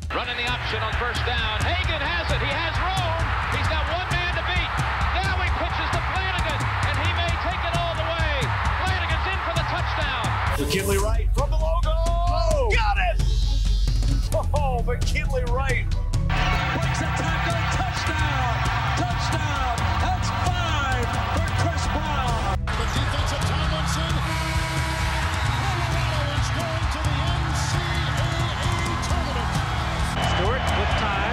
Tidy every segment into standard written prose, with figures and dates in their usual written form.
Running the option on first down. Hagan has it. He has room. He's got one man to beat. Now he pitches to Flanagan, and he may take it all the way. Flanagan's in for the touchdown. McKinley Wright from the logo. Oh, got it! Oh, McKinley Wright. Breaks a tackle. Touchdown. Touchdown. That's 5 for Chris Brown. The defensive Tomlinson. Colorado is going to the NCAA tournament. Stewart with time.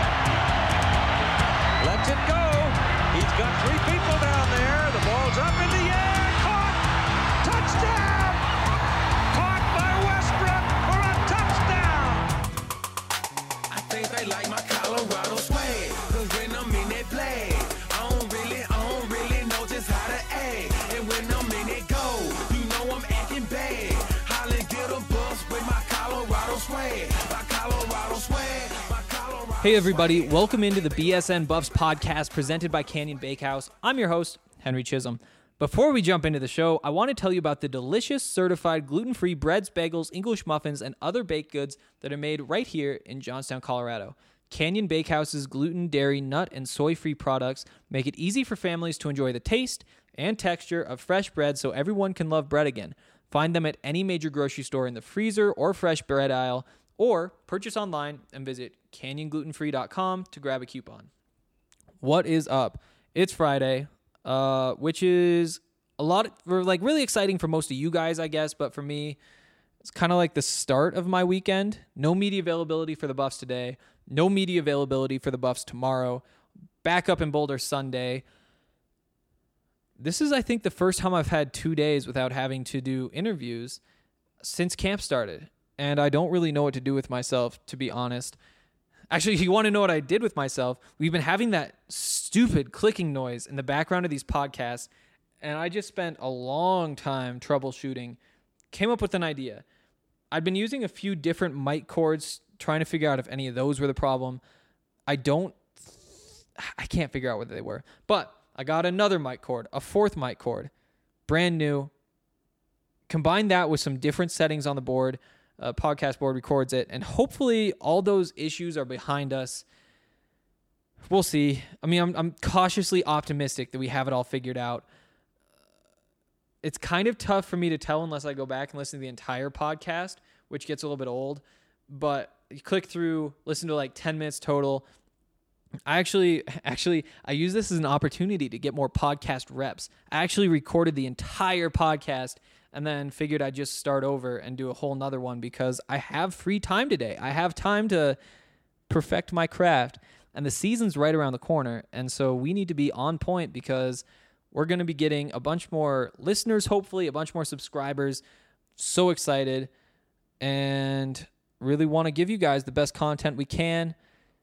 Lets it go. He's got 3 people down there. The ball's up in the air. Caught. Touchdown. Caught by Westbrook for a touchdown. I think they like my Colorado swag. Cause when I'm in that play, I don't really know just how to act. And when I'm in it go, you know I'm acting bad. Holland get a bus with my Colorado swag. My Colorado swag. My Colorado Hey everybody, welcome into the BSN Buffs podcast presented by Canyon Bakehouse. I'm your host, Henry Chisholm. Before we jump into the show, I want to tell you about the delicious, certified, gluten-free breads, bagels, English muffins, and other baked goods that are made right here in Johnstown, Colorado. Canyon Bakehouse's gluten, dairy, nut, and soy-free products make it easy for families to enjoy the taste and texture of fresh bread so everyone can love bread again. Find them at any major grocery store in the freezer or fresh bread aisle, or purchase online and visit canyonglutenfree.com to grab a coupon. What is up? It's Friday, which is really exciting for most of you guys, I guess, but for me, it's kind of like the start of my weekend. No media availability for the Buffs today. No media availability for the Buffs tomorrow. Back up in Boulder Sunday. This is, I think, the first time I've had 2 days without having to do interviews since camp started. And I don't really know what to do with myself, to be honest. Actually, if you want to know what I did with myself, we've been having that stupid clicking noise in the background of these podcasts, and I just spent a long time troubleshooting. Came up with an idea. I'd been using a few different mic cords, trying to figure out if any of those were the problem. I can't figure out what they were. But I got another mic cord, a 4th mic cord, brand new. Combine that with some different settings on the board. Podcast board records it, and hopefully all those issues are behind us. We'll see. I mean, I'm cautiously optimistic that we have it all figured out. It's kind of tough for me to tell unless I go back and listen to the entire podcast, which gets a little bit old. But you click through, listen to like 10 minutes total. I use this as an opportunity to get more podcast reps. I actually recorded the entire podcast and then figured I'd just start over and do a whole nother one because I have free time today. I have time to perfect my craft, and the season's right around the corner, and so we need to be on point because we're going to be getting a bunch more listeners, hopefully, a bunch more subscribers. So excited, and really want to give you guys the best content we can.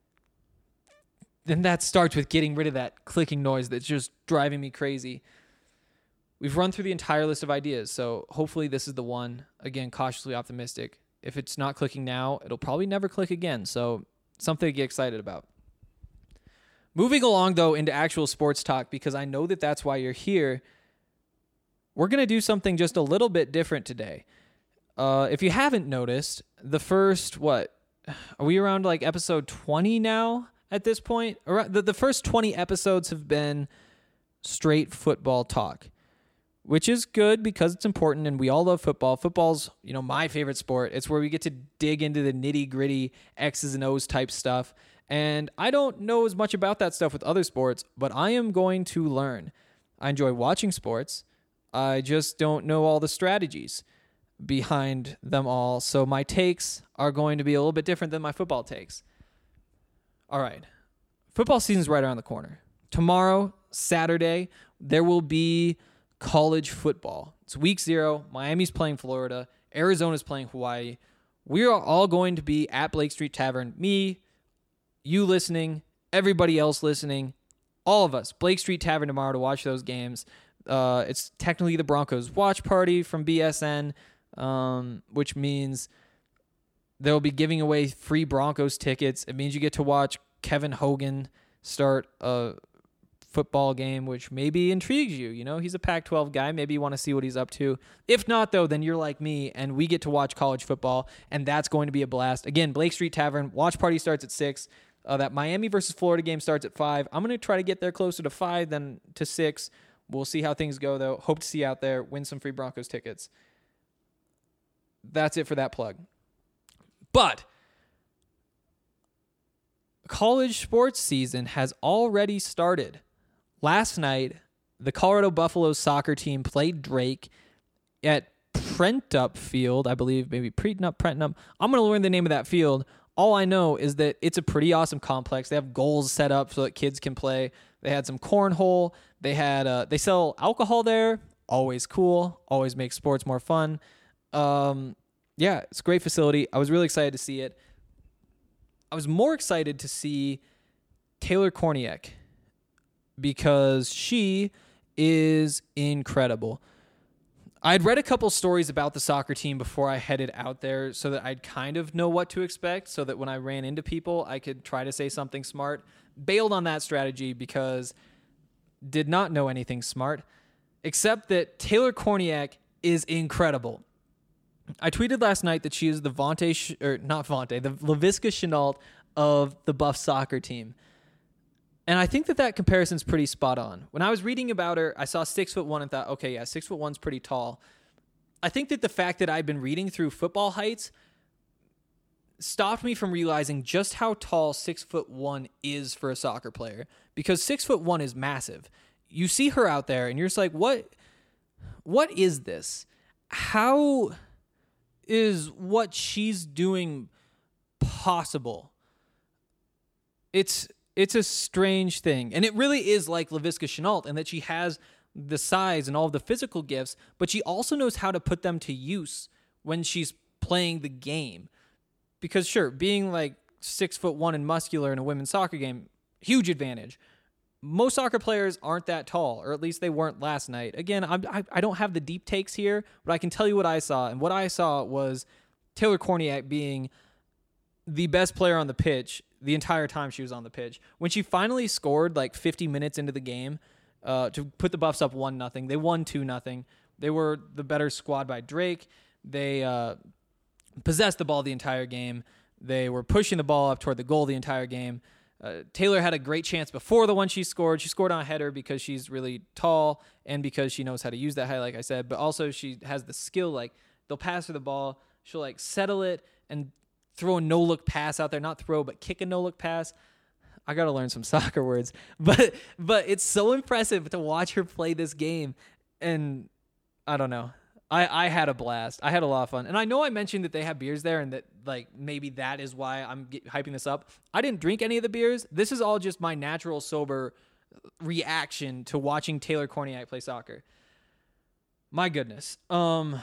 Then that starts with getting rid of that clicking noise that's just driving me crazy. We've run through the entire list of ideas, so hopefully this is the one. Again, cautiously optimistic. If it's not clicking now, it'll probably never click again, so something to get excited about. Moving along, though, into actual sports talk, because I know that that's why you're here, we're going to do something just a little bit different today. If you haven't noticed, the first, are we around like episode 20 now at this point? The first 20 episodes have been straight football talk, which is good because it's important and we all love football. Football's, my favorite sport. It's where we get to dig into the nitty-gritty X's and O's type stuff. And I don't know as much about that stuff with other sports, but I am going to learn. I enjoy watching sports. I just don't know all the strategies behind them all. So my takes are going to be a little bit different than my football takes. All right. Football season's right around the corner. Tomorrow, Saturday, there will be college football. It's week 0. Miami's playing Florida. Arizona's playing Hawaii. We are all going to be at Blake Street Tavern. Me, you listening, everybody else listening, all of us, Blake Street Tavern tomorrow to watch those games. It's technically the Broncos watch party from BSN, which means they'll be giving away free Broncos tickets. It means you get to watch Kevin Hogan start a football game, which maybe intrigues you. You know, he's a Pac-12 guy. Maybe you want to see what he's up to. If not, though, then you're like me, and we get to watch college football, and that's going to be a blast. Again, Blake Street Tavern, watch party starts at 6. That Miami versus Florida game starts at 5. I'm going to try to get there closer to 5 than to 6. We'll see how things go, though. Hope to see you out there. Win some free Broncos tickets. That's it for that plug. But college sports season has already started. Last night, the Colorado Buffaloes soccer team played Drake at Prentup Field, I believe, maybe Prentup. I'm going to learn the name of that field. All I know is that it's a pretty awesome complex. They have goals set up so that kids can play. They had some cornhole. They sell alcohol there. Always cool. Always makes sports more fun. Yeah, it's a great facility. I was really excited to see it. I was more excited to see Taylor Korniak because she is incredible. I'd read a couple stories about the soccer team before I headed out there so that I'd kind of know what to expect so that when I ran into people, I could try to say something smart. Bailed on that strategy because did not know anything smart, except that Taylor Korniak is incredible. I tweeted last night that she is the the Laviska Shenault of the Buff soccer team. And I think that comparison's pretty spot on. When I was reading about her, I saw 6'1" and thought, okay, yeah, 6'1's pretty tall. I think that the fact that I've been reading through Football Heights stopped me from realizing just how tall 6'1" is for a soccer player. Because 6'1" is massive. You see her out there and you're just like, what is this? How is what she's doing possible? It's a strange thing. And it really is like Laviska Shenault in that she has the size and all of the physical gifts, but she also knows how to put them to use when she's playing the game. Because sure, being like 6'1" and muscular in a women's soccer game, huge advantage. Most soccer players aren't that tall, or at least they weren't last night. Again, I don't have the deep takes here, but I can tell you what I saw. And what I saw was Taylor Korniak being the best player on the pitch the entire time she was on the pitch. When she finally scored like 50 minutes into the game to put the Buffs up 1-0, they won 2-0. They were the better squad by Drake. They possessed the ball the entire game. They were pushing the ball up toward the goal the entire game. Taylor had a great chance before the one she scored. She scored on a header because she's really tall and because she knows how to use that height, like I said. But also she has the skill, like they'll pass her the ball. She'll like settle it and throw a no-look pass out there. Not throw, but kick a no-look pass. I got to learn some soccer words. But it's so impressive to watch her play this game. And I don't know. I had a blast. I had a lot of fun. And I know I mentioned that they have beers there and that like maybe that is why I'm hyping this up. I didn't drink any of the beers. This is all just my natural sober reaction to watching Taylor Korniak play soccer. My goodness. Wow.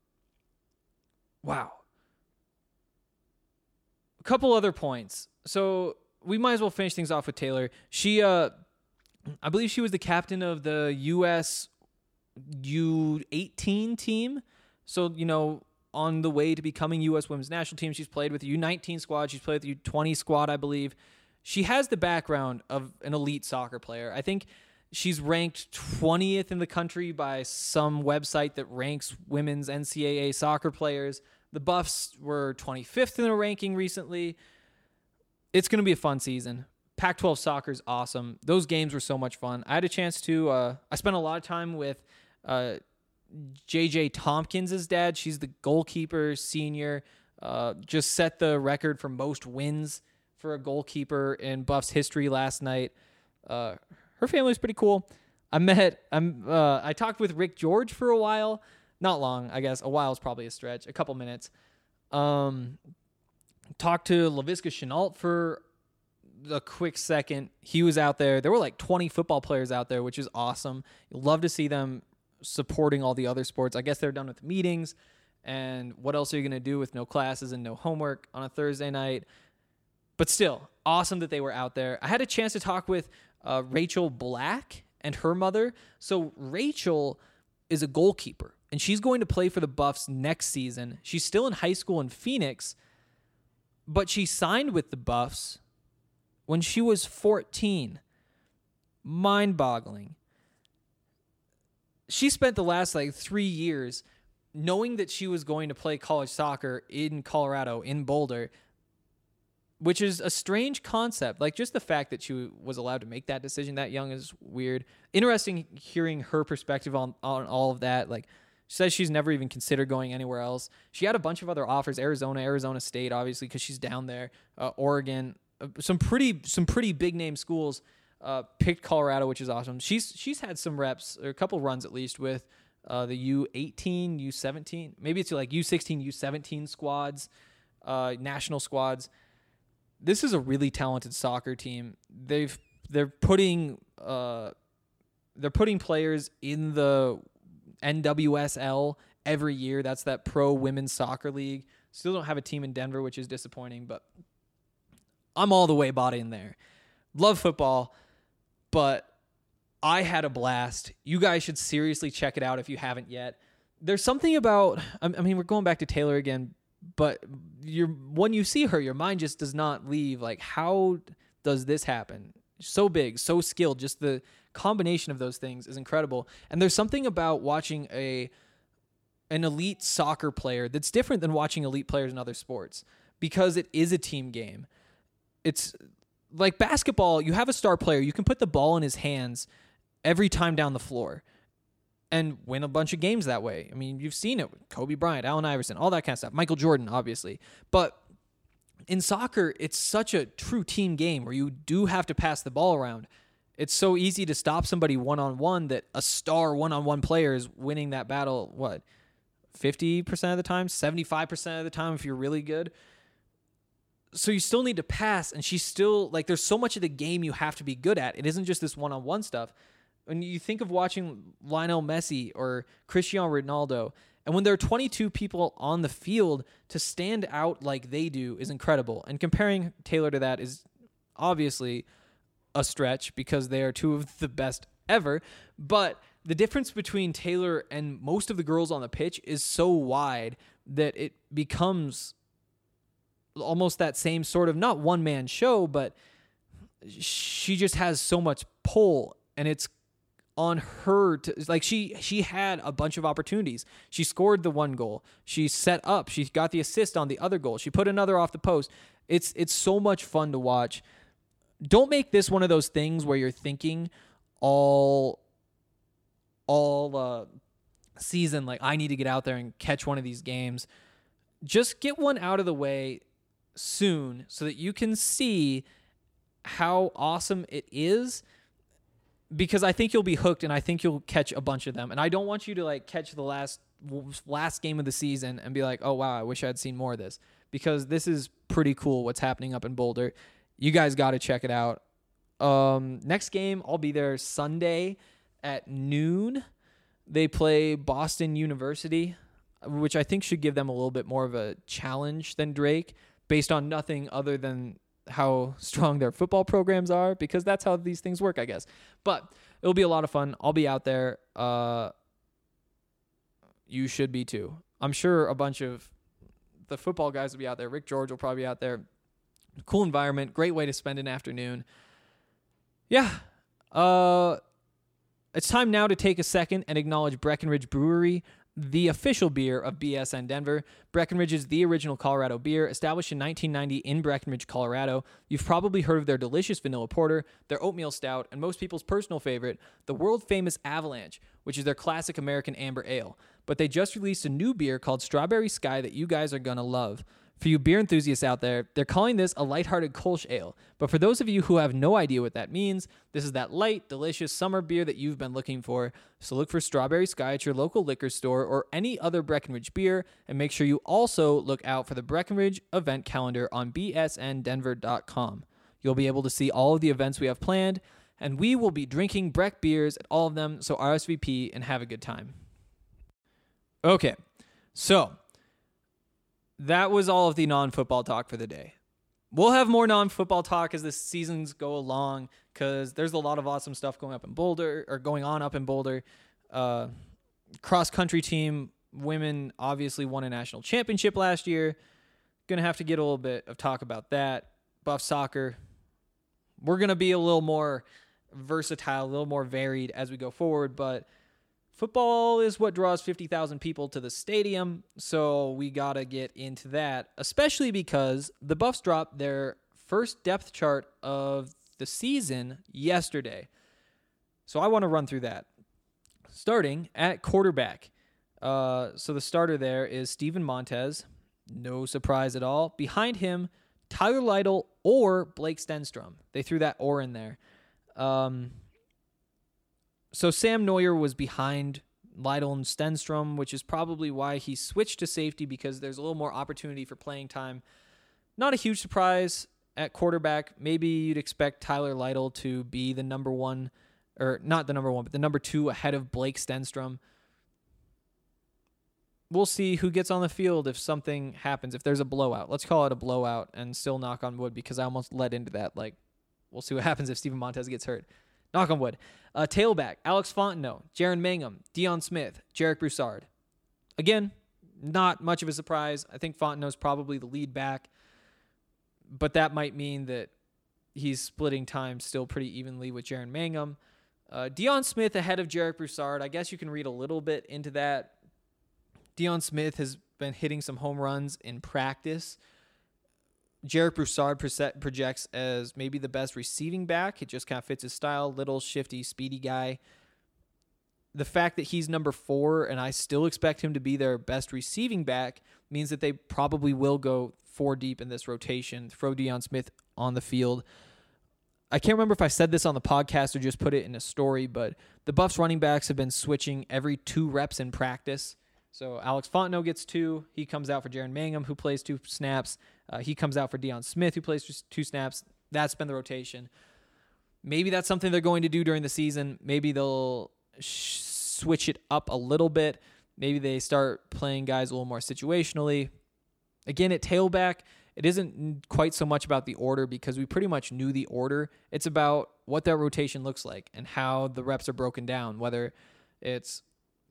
A couple other points. So we might as well finish things off with Taylor. She, I believe she was the captain of the U.S. U18 team. So, you know, on the way to becoming U.S. women's national team, she's played with the U19 squad. She's played with the U20 squad, I believe. She has the background of an elite soccer player. I think she's ranked 20th in the country by some website that ranks women's NCAA soccer players. The Buffs were 25th in a ranking recently. It's going to be a fun season. Pac-12 soccer is awesome. Those games were so much fun. I had a chance to, I spent a lot of time with JJ Tompkins' dad. She's the goalkeeper, senior, just set the record for most wins for a goalkeeper in Buffs history last night. Her family's pretty cool. I talked with Rick George for a while. Not long, I guess. A while is probably a stretch. A couple minutes. Talked to Laviska Shenault for a quick second. He was out there. There were like 20 football players out there, which is awesome. You'd love to see them supporting all the other sports. I guess they're done with meetings. And what else are you going to do with no classes and no homework on a Thursday night? But still, awesome that they were out there. I had a chance to talk with Rachel Black and her mother. So Rachel is a goalkeeper, and she's going to play for the Buffs next season. She's still in high school in Phoenix, but she signed with the Buffs when she was 14. mind-boggling. She spent the last 3 years knowing that she was going to play college soccer in Colorado, in Boulder, which is a strange concept. Just the fact that she was allowed to make that decision that young is weird. Interesting hearing her perspective on all of that. She says she's never even considered going anywhere else. She had a bunch of other offers, Arizona State, obviously, because she's down there, Oregon, some pretty big name schools. Picked Colorado, which is awesome. She's had some reps, or a couple runs at least, with the U18, U17, maybe it's U16, U17 squads, national squads. This is a really talented soccer team. They're putting players in the NWSL every year. That's that pro women's soccer league. Still don't have a team in Denver, which is disappointing, but I'm all the way bought in there. Love football, but I had a blast. You guys should seriously check it out if you haven't yet. There's something about, we're going back to Taylor again, but when you see her, your mind just does not leave. How does this happen? So big, so skilled. Just the combination of those things is incredible. And there's something about watching an elite soccer player that's different than watching elite players in other sports, because it is a team game. It's like basketball. You have a star player. You can put the ball in his hands every time down the floor and win a bunch of games that way. You've seen it with Kobe Bryant, Allen Iverson, all that kind of stuff. Michael Jordan, obviously. But in soccer, it's such a true team game where you do have to pass the ball around. It's so easy to stop somebody one-on-one that a star one-on-one player is winning that battle, 50% of the time, 75% of the time if you're really good. So you still need to pass, and she's still, there's so much of the game you have to be good at. It isn't just this one-on-one stuff. When you think of watching Lionel Messi or Cristiano Ronaldo, and when there are 22 people on the field, to stand out like they do is incredible. And comparing Taylor to that is obviously a stretch, because they are two of the best ever. But the difference between Taylor and most of the girls on the pitch is so wide that it becomes almost that same sort of, not one-man show, but she just has so much pull, and it's on her to, she had a bunch of opportunities. She scored the one goal. She set up. She got the assist on the other goal. She put another off the post. It's so much fun to watch. Don't make this one of those things where you're thinking all season, I need to get out there and catch one of these games. Just get one out of the way soon so that you can see how awesome it is, because I think you'll be hooked, and I think you'll catch a bunch of them. And I don't want you to catch the last game of the season and be like, oh wow, I wish I had seen more of this, because this is pretty cool what's happening up in Boulder. You guys got to check it out. Next game, I'll be there Sunday at noon. They play Boston University, which I think should give them a little bit more of a challenge than Drake, based on nothing other than how strong their football programs are, because that's how these things work, I guess. But it'll be a lot of fun. I'll be out there. You should be too. I'm sure a bunch of the football guys will be out there. Rick George will probably be out there. Cool environment. Great way to spend an afternoon. Yeah. It's time now to take a second and acknowledge Breckenridge Brewery, the official beer of BSN Denver. Breckenridge is the original Colorado beer, established in 1990 in Breckenridge, Colorado. You've probably heard of their delicious vanilla porter, their oatmeal stout, and most people's personal favorite, the world-famous Avalanche, which is their classic American amber ale. But they just released a new beer called Strawberry Sky that you guys are gonna love. For you beer enthusiasts out there, they're calling this a lighthearted Kolsch ale. But for those of you who have no idea what that means, this is that light, delicious summer beer that you've been looking for. So look for Strawberry Sky at your local liquor store or any other Breckenridge beer, and make sure you also look out for the Breckenridge event calendar on bsndenver.com. You'll be able to see all of the events we have planned, and we will be drinking Breck beers at all of them, so RSVP and have a good time. Okay, so that was all of the non-football talk for the day. We'll have more non-football talk as the seasons go along, because there's a lot of awesome stuff going on up in Boulder. Cross-country team, women obviously won a national championship last year. Going to have to get a little bit of talk about that. Buff soccer. We're going to be a little more versatile, a little more varied as we go forward. But football is what draws 50,000 people to the stadium, so we got to get into that, especially because the Buffs dropped their first depth chart of the season yesterday. So I want to run through that. Starting at quarterback. So the starter there is Steven Montez. No surprise at all. Behind him, Tyler Lytle or Blake Stenstrom. They threw that "or" in there. So Sam Neuer was behind Lytle and Stenstrom, which is probably why he switched to safety, because there's a little more opportunity for playing time. Not a huge surprise at quarterback. Maybe you'd expect Tyler Lytle to be the number one, or not the number one, but the number two ahead of Blake Stenstrom. We'll see who gets on the field if something happens, if there's a blowout. Let's call it a blowout and still knock on wood, because I almost led into that. Like, we'll see what happens if Steven Montez gets hurt. Knock on wood. Tailback, Alex Fontenot, Jaron Mangum, Deion Smith, Jarek Broussard. Again, not much of a surprise. I think Fontenot's probably the lead back, but that might mean that he's splitting time still pretty evenly with Jaron Mangum. Deion Smith ahead of Jarek Broussard. I guess you can read a little bit into that. Deion Smith has been hitting some home runs in practice. Jarek Broussard projects as maybe the best receiving back. It just kind of fits his style. Little, shifty, speedy guy. The fact that he's number 4 and I still expect him to be their best receiving back means that they probably will go 4 deep in this rotation, throw Deion Smith on the field. I can't remember if I said this on the podcast or just put it in a story, but the Buffs running backs have been switching every 2 reps in practice. So Alex Fontenot gets 2. He comes out for Jaron Mangum, who plays 2 snaps. He comes out for Deion Smith, who plays just 2 snaps. That's been the rotation. Maybe that's something they're going to do during the season. Maybe they'll switch it up a little bit. Maybe they start playing guys a little more situationally. Again, at tailback, it isn't quite so much about the order, because we pretty much knew the order. It's about what that rotation looks like and how the reps are broken down, whether it's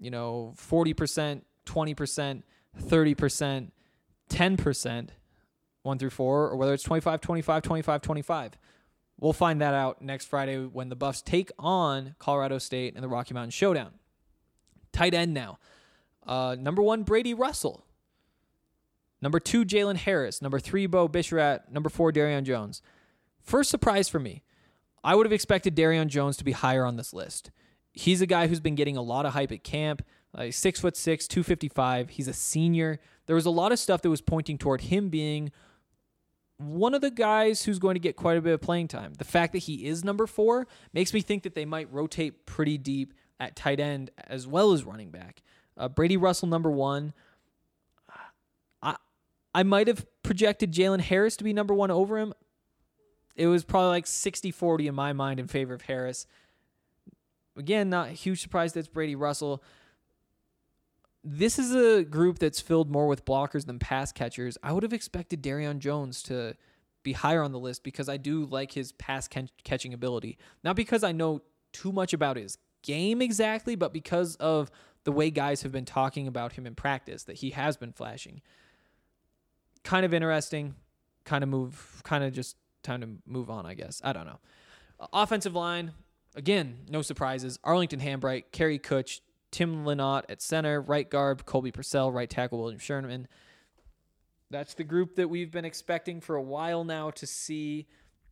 40%, 20%, 30%, 10%, 1 through 4, or whether it's 25, 25, 25, 25. We'll find that out next Friday when the Buffs take on Colorado State in the Rocky Mountain Showdown. Tight end now. Number 1, Brady Russell. Number 2, Jalen Harris. Number 3, Bo Bisharat. Number 4, Darian Jones. First surprise for me. I would have expected Darian Jones to be higher on this list. He's a guy who's been getting a lot of hype at camp. 6'6", 255. He's a senior. There was a lot of stuff that was pointing toward him being one of the guys who's going to get quite a bit of playing time. The fact that he is number 4 makes me think that they might rotate pretty deep at tight end as well as running back. Brady Russell, number 1. I might have projected Jalen Harris to be number 1 over him. It was probably like 60-40 in my mind in favor of Harris. Again, not a huge surprise that it's Brady Russell. This is a group that's filled more with blockers than pass catchers. I would have expected Darian Jones to be higher on the list, because I do like his pass catching ability. Not because I know too much about his game exactly, but because of the way guys have been talking about him in practice, that he has been flashing. Kind of interesting. Kind of just time to move on, I guess. I don't know. Offensive line, again, no surprises. Arlington Hambright, Kerry Kutch, Tim Lynott at center, right guard, Colby Purcell, right tackle, William Sherman. That's the group that we've been expecting for a while now to see.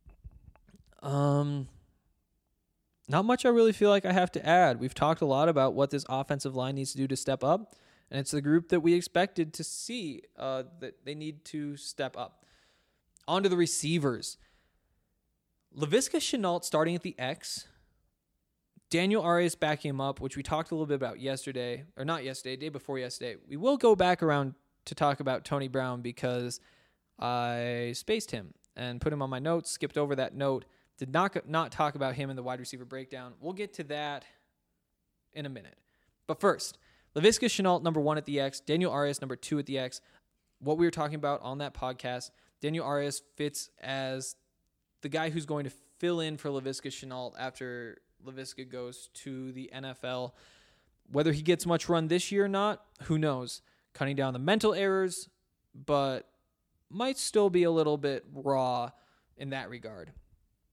Not much I really feel like I have to add. We've talked a lot about what this offensive line needs to do to step up, and it's the group that we expected to see that they need to step up. On to the receivers. Laviska Shenault starting at the X. Daniel Arias backing him up, which we talked a little bit about yesterday, or not yesterday, day before yesterday. We will go back around to talk about Tony Brown, because I spaced him and put him on my notes, skipped over that note, did not talk about him in the wide receiver breakdown. We'll get to that in a minute. But first, Laviska Shenault, number 1 at the X, Daniel Arias, number 2 at the X. What we were talking about on that podcast, Daniel Arias fits as the guy who's going to fill in for Laviska Shenault after Laviska goes to the NFL. Whether he gets much run this year or not, who knows? Cutting down the mental errors, but might still be a little bit raw in that regard.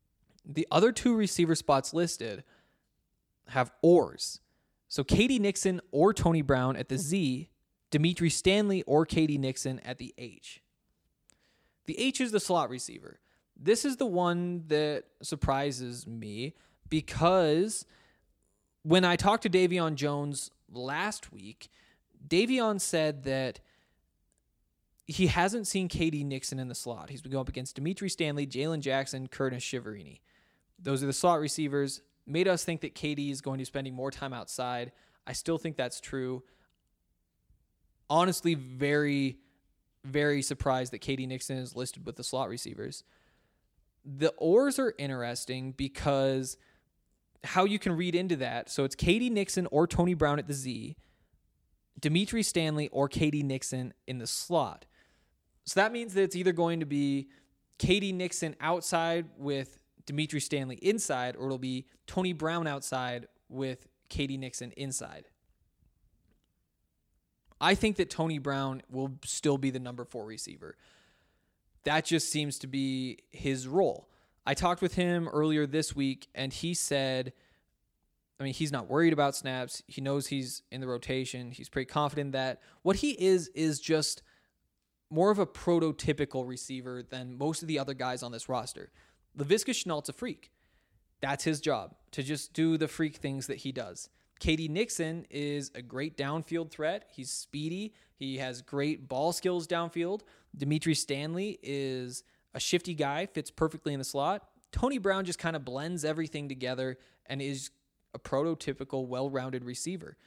The other 2 receiver spots listed have ors. So Katie Nixon or Tony Brown at the Z, Dimitri Stanley or Katie Nixon at the H. The H is the slot receiver. This is the one that surprises me because when I talked to Davion Jones last week, Davion said that he hasn't seen Katie Nixon in the slot. He's been going up against Dimitri Stanley, Jalen Jackson, Curtis Shiverini. Those are the slot receivers. Made us think that Katie is going to be spending more time outside. I still think that's true. Honestly, very, very surprised that Katie Nixon is listed with the slot receivers. The ors are interesting because how you can read into that. So it's Katie Nixon or Tony Brown at the Z, Dimitri Stanley or Katie Nixon in the slot. So that means that it's either going to be Katie Nixon outside with Dimitri Stanley inside, or it'll be Tony Brown outside with Katie Nixon inside. I think that Tony Brown will still be the number 4 receiver. That just seems to be his role. I talked with him earlier this week, and he said, he's not worried about snaps. He knows he's in the rotation. He's pretty confident that what he is just more of a prototypical receiver than most of the other guys on this roster. Laviska Shenault's a freak. That's his job, to just do the freak things that he does. Katie Nixon is a great downfield threat. He's speedy. He has great ball skills downfield. Dimitri Stanley is a shifty guy, fits perfectly in the slot. Tony Brown just kind of blends everything together and is a prototypical, well-rounded receiver.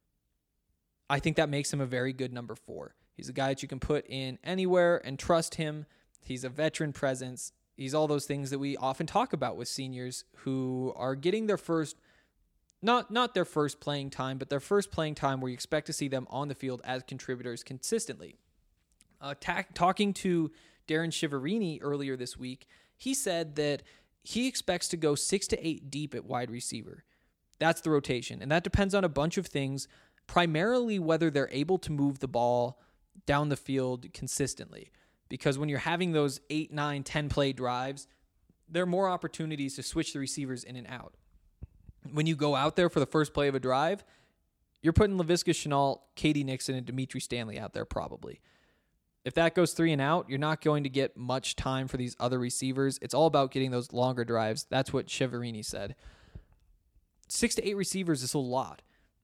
I think that makes him a very good number 4. He's a guy that you can put in anywhere and trust him. He's a veteran presence. He's all those things that we often talk about with seniors who are getting their first, not their first playing time, but their first playing time where you expect to see them on the field as contributors consistently. Talking to Darren Shiverini earlier this week, he said that he expects to go 6 to 8 deep at wide receiver. That's the rotation, and that depends on a bunch of things, primarily whether they're able to move the ball down the field consistently. Because when you're having those 8, 9, 10 play drives, there are more opportunities to switch the receivers in and out. When you go out there for the first play of a drive, you're putting Laviska Shenault, Katie Nixon, and Dimitri Stanley out there probably. If that goes 3 and out, you're not going to get much time for these other receivers. It's all about getting those longer drives. That's what Shiverini said. 6 to 8 receivers is a lot.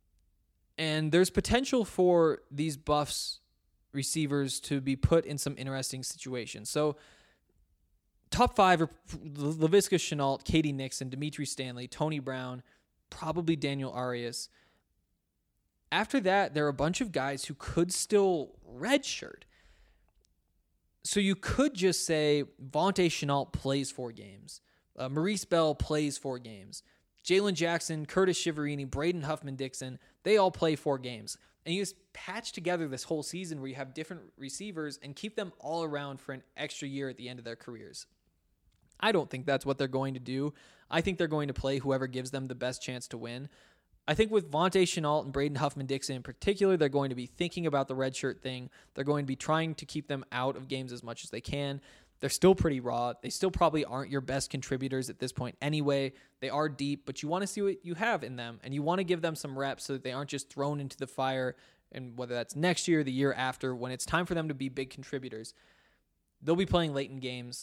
And there's potential for these Buffs receivers to be put in some interesting situations. So top 5 are Laviska Shenault, Katie Nixon, Dimitri Stanley, Tony Brown, probably Daniel Arias. After that, there are a bunch of guys who could still redshirt. So you could just say Vontae Shenault plays 4 games. Maurice Bell plays 4 games. Jalen Jackson, Curtis Shiverini, Braden Huffman-Dixon, they all play 4 games. And you just patch together this whole season where you have different receivers and keep them all around for an extra year at the end of their careers. I don't think that's what they're going to do. I think they're going to play whoever gives them the best chance to win. I think with Vontae Shenault and Braden Huffman-Dixon in particular, they're going to be thinking about the redshirt thing. They're going to be trying to keep them out of games as much as they can. They're still pretty raw. They still probably aren't your best contributors at this point anyway. They are deep, but you want to see what you have in them, and you want to give them some reps so that they aren't just thrown into the fire, and whether that's next year or the year after, when it's time for them to be big contributors. They'll be playing late in games.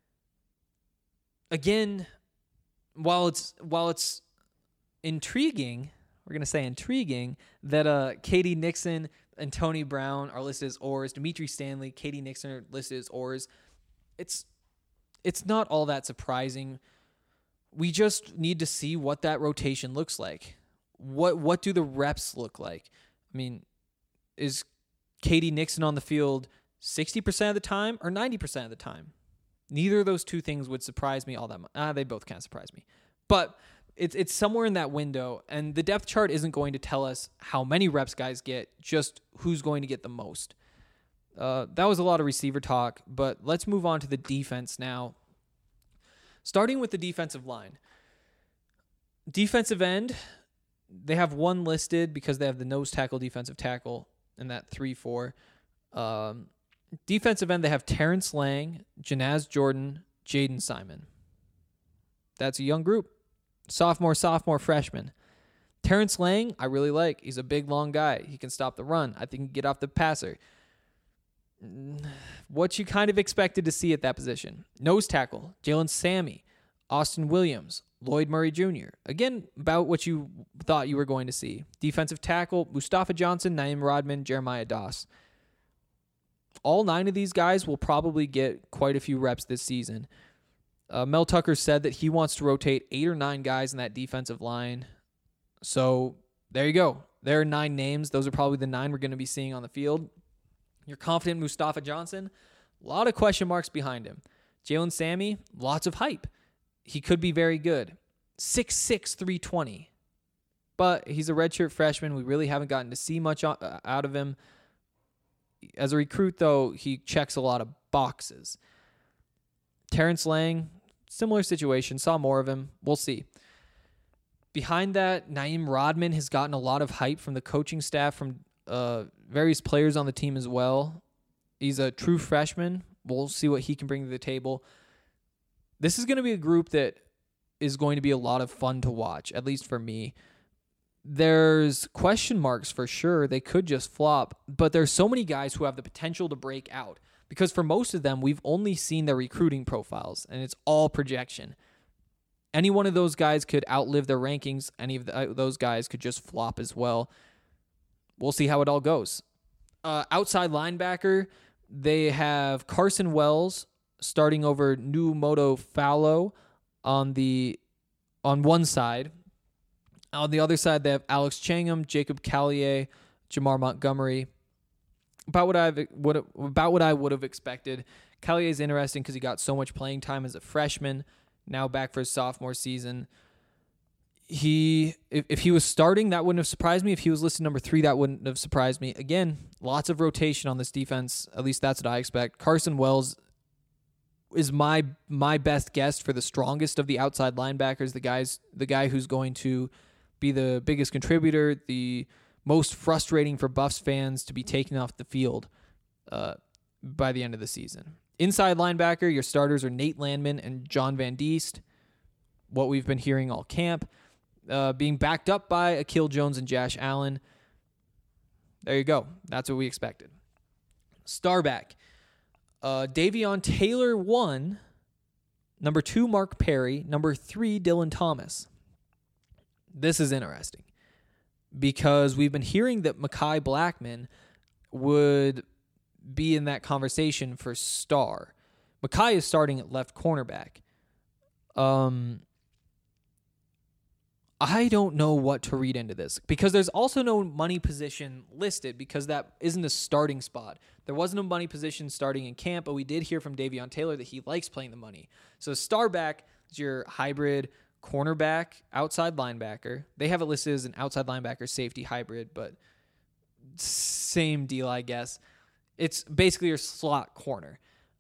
Again, while it's intriguing, we're going to say intriguing, that Katie Nixon and Tony Brown are listed as ors, Dimitri Stanley, Katie Nixon are listed as ors, it's not all that surprising. We just need to see what that rotation looks like. What do the reps look like? I mean, is Katie Nixon on the field 60% of the time or 90% of the time? Neither of those two things would surprise me all that much. They both kind of surprise me. But it's somewhere in that window, and the depth chart isn't going to tell us how many reps guys get, just who's going to get the most. That was a lot of receiver talk, but let's move on to the defense now. Starting with the defensive line. Defensive end, they have 1 listed because they have the nose tackle, defensive tackle, in that 3-4. Defensive end, they have Terrence Lang, Janaz Jordan, Jaden Simon. That's a young group. Sophomore, freshman. Terrence Lang, I really like. He's a big, long guy. He can stop the run. I think he can get off the passer. What you kind of expected to see at that position. Nose tackle, Jalen Sammy, Austin Williams, Lloyd Murray Jr. Again, about what you thought you were going to see. Defensive tackle, Mustafa Johnson, Naeem Rodman, Jeremiah Doss. All 9 of these guys will probably get quite a few reps this season. Mel Tucker said that he wants to rotate 8 or 9 guys in that defensive line. So there you go. There are 9 names. Those are probably the 9 we're going to be seeing on the field. You're confident in Mustafa Johnson? A lot of question marks behind him. Jalen Sammy, lots of hype. He could be very good. 6'6", 320. But he's a redshirt freshman. We really haven't gotten to see much out of him. As a recruit, though, he checks a lot of boxes. Terrence Lang, similar situation. Saw more of him. We'll see. Behind that, Naeem Rodman has gotten a lot of hype from the coaching staff, from various players on the team as well. He's a true freshman. We'll see what he can bring to the table. This is going to be a group that is going to be a lot of fun to watch, at least for me. There's question marks for sure. They could just flop, but there's so many guys who have the potential to break out, because for most of them, we've only seen their recruiting profiles, and it's all projection. Any one of those guys could outlive their rankings. Any of those guys could just flop as well. We'll see how it all goes. Outside linebacker, they have Carson Wells starting over Numoto Fallow on one side. On the other side, they have Alex Changham, Jacob Callier, Jamar Montgomery. About what I would have expected. Callier is interesting because he got so much playing time as a freshman. Now back for his sophomore season. If he was starting, that wouldn't have surprised me. If he was listed number 3, that wouldn't have surprised me. Again, lots of rotation on this defense. At least that's what I expect. Carson Wells is my best guess for the strongest of the outside linebackers. The guy who's going to be the biggest contributor, the most frustrating for Buffs fans to be taken off the field by the end of the season. Inside linebacker, your starters are Nate Landman and John Van Diest. What we've been hearing all camp. Being backed up by Akil Jones and Josh Allen. There you go. That's what we expected. Starback. Davion Taylor 1. Number 2, Mark Perry. Number 3, Dylan Thomas. This is interesting because we've been hearing that Mekhi Blackman would be in that conversation for star. Mekhi is starting at left cornerback. I don't know what to read into this because there's also no money position listed because that isn't a starting spot. There wasn't a money position starting in camp, but we did hear from Davion Taylor that he likes playing the money. So Starback is your hybrid cornerback, outside linebacker. They have it listed as an outside linebacker safety hybrid, but same deal, I guess. It's basically your slot corner.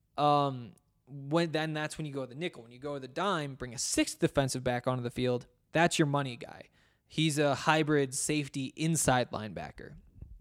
That's when you go to the nickel. When you go to the dime, bring a 6th defensive back onto the field. That's your money guy. He's a hybrid safety inside linebacker.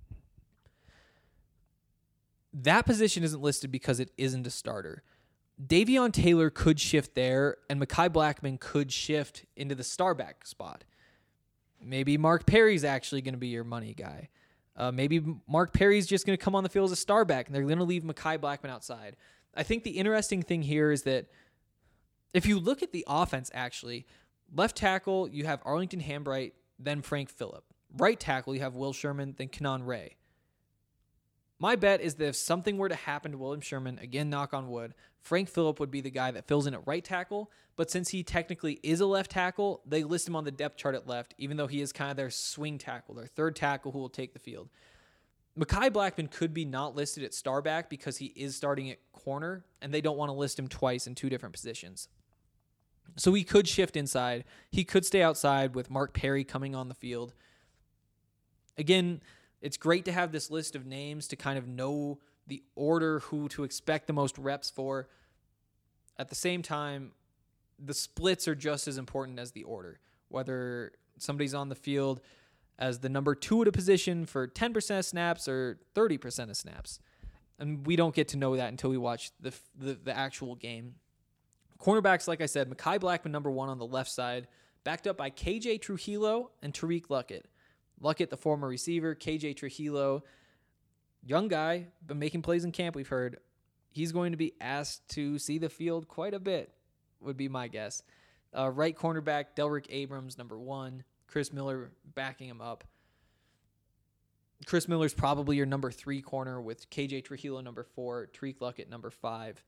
That position isn't listed because it isn't a starter. Davion Taylor could shift there, and Mekhi Blackman could shift into the starback spot. Maybe Mark Perry's actually going to be your money guy. Maybe Mark Perry's just going to come on the field as a starback, and they're going to leave Mekhi Blackman outside. I think the interesting thing here is that if you look at the offense, actually, left tackle, you have Arlington Hambright, then Frank Phillip. Right tackle, you have Will Sherman, then Kenan Ray. My bet is that if something were to happen to William Sherman, again, knock on wood, Frank Phillip would be the guy that fills in at right tackle. But since he technically is a left tackle, they list him on the depth chart at left, even though he is kind of their swing tackle, their third tackle who will take the field. Mekhi Blackman could be not listed at starback because he is starting at corner, and they don't want to list him twice in 2 different positions. So he could shift inside. He could stay outside with Mark Perry coming on the field. Again, it's great to have this list of names to kind of know the order, who to expect the most reps for. At the same time, the splits are just as important as the order. Whether somebody's on the field as the number 2 at a position for 10% of snaps or 30% of snaps. And we don't get to know that until we watch the actual game. Cornerbacks, like I said, Mekhi Blackman, number 1 on the left side, backed up by KJ Trujillo and Tariq Luckett. Luckett, the former receiver. KJ Trujillo, young guy, been making plays in camp, we've heard. He's going to be asked to see the field quite a bit, would be my guess. Right cornerback, Delrick Abrams, number 1. Chris Miller backing him up. Chris Miller's probably your number 3 corner with KJ Trujillo, number 4. Tariq Luckett, number 5.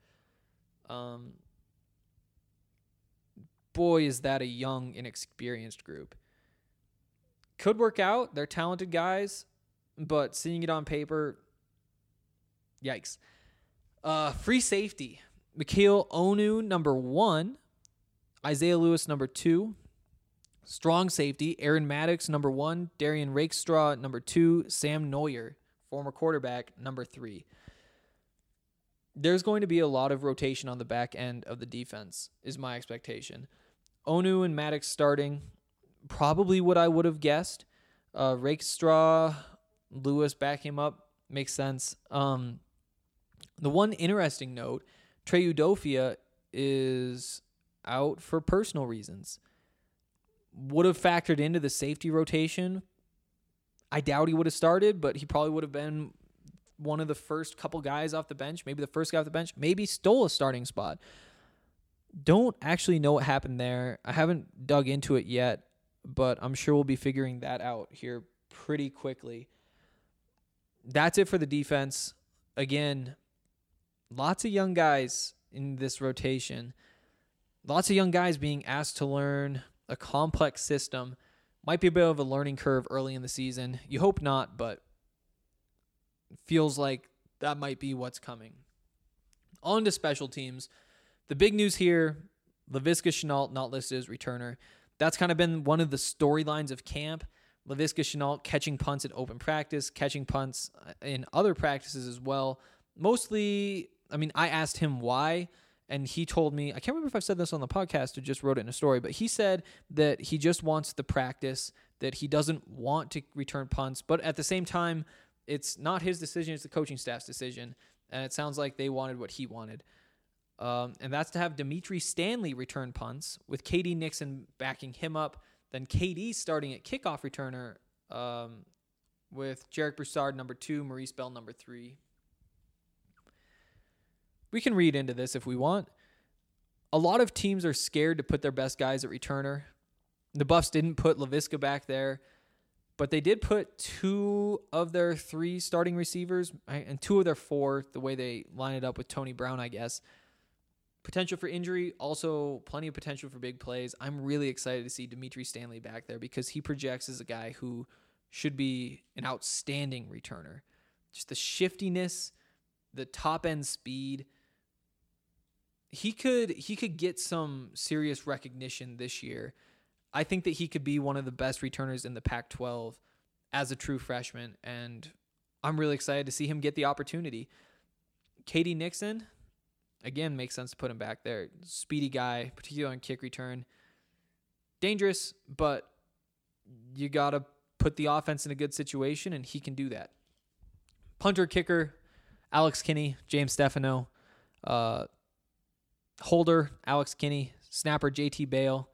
Boy, is that a young, inexperienced group. Could work out. They're talented guys, but seeing it on paper, yikes. Free safety. Mikhail Onu, number 1. Isaiah Lewis, number 2. Strong safety. Aaron Maddox, number 1. Darian Rakestraw, number 2. Sam Neuer, former quarterback, number 3. There's going to be a lot of rotation on the back end of the defense, is my expectation. Onu and Maddox starting, probably what I would have guessed. Rakestraw, Lewis back him up, makes sense. The one interesting note, Trey Udofia is out for personal reasons. Would have factored into the safety rotation. I doubt he would have started, but he probably would have been one of the first couple guys off the bench, maybe the first guy off the bench, maybe stole a starting spot. Don't actually know what happened there. I haven't dug into it yet, but I'm sure we'll be figuring that out here pretty quickly. That's it for the defense. Again, lots of young guys in this rotation. Lots of young guys being asked to learn a complex system. Might be a bit of a learning curve early in the season. You hope not, but feels like that might be what's coming. On to special teams. The big news here, Laviska Shenault not listed as returner. That's kind of been one of the storylines of camp. Laviska Shenault catching punts at open practice, catching punts in other practices as well. Mostly, I asked him why, and he told me, I can't remember if I've said this on the podcast or just wrote it in a story, but he said that he just wants the practice, that he doesn't want to return punts, but at the same time, it's not his decision, it's the coaching staff's decision, and it sounds like they wanted what he wanted. And that's to have Dimitri Stanley return punts, with KD Nixon backing him up, then KD starting at kickoff returner with Jarek Broussard, number 2, Maurice Bell, number 3. We can read into this if we want. A lot of teams are scared to put their best guys at returner. The Buffs didn't put Laviska back there, but they did put 2 of their 3 starting receivers and 2 of their 4, the way they line it up with Tony Brown, I guess. Potential for injury, also plenty of potential for big plays. I'm really excited to see Dimitri Stanley back there because he projects as a guy who should be an outstanding returner. Just the shiftiness, the top-end speed. He could get some serious recognition this year. I think that he could be one of the best returners in the Pac-12 as a true freshman, and I'm really excited to see him get the opportunity. KD Nixon, again, makes sense to put him back there. Speedy guy, particularly on kick return. Dangerous, but you got to put the offense in a good situation, and he can do that. Punter, kicker, Alex Kinney, James Stefano. Holder, Alex Kinney. Snapper, JT Bale.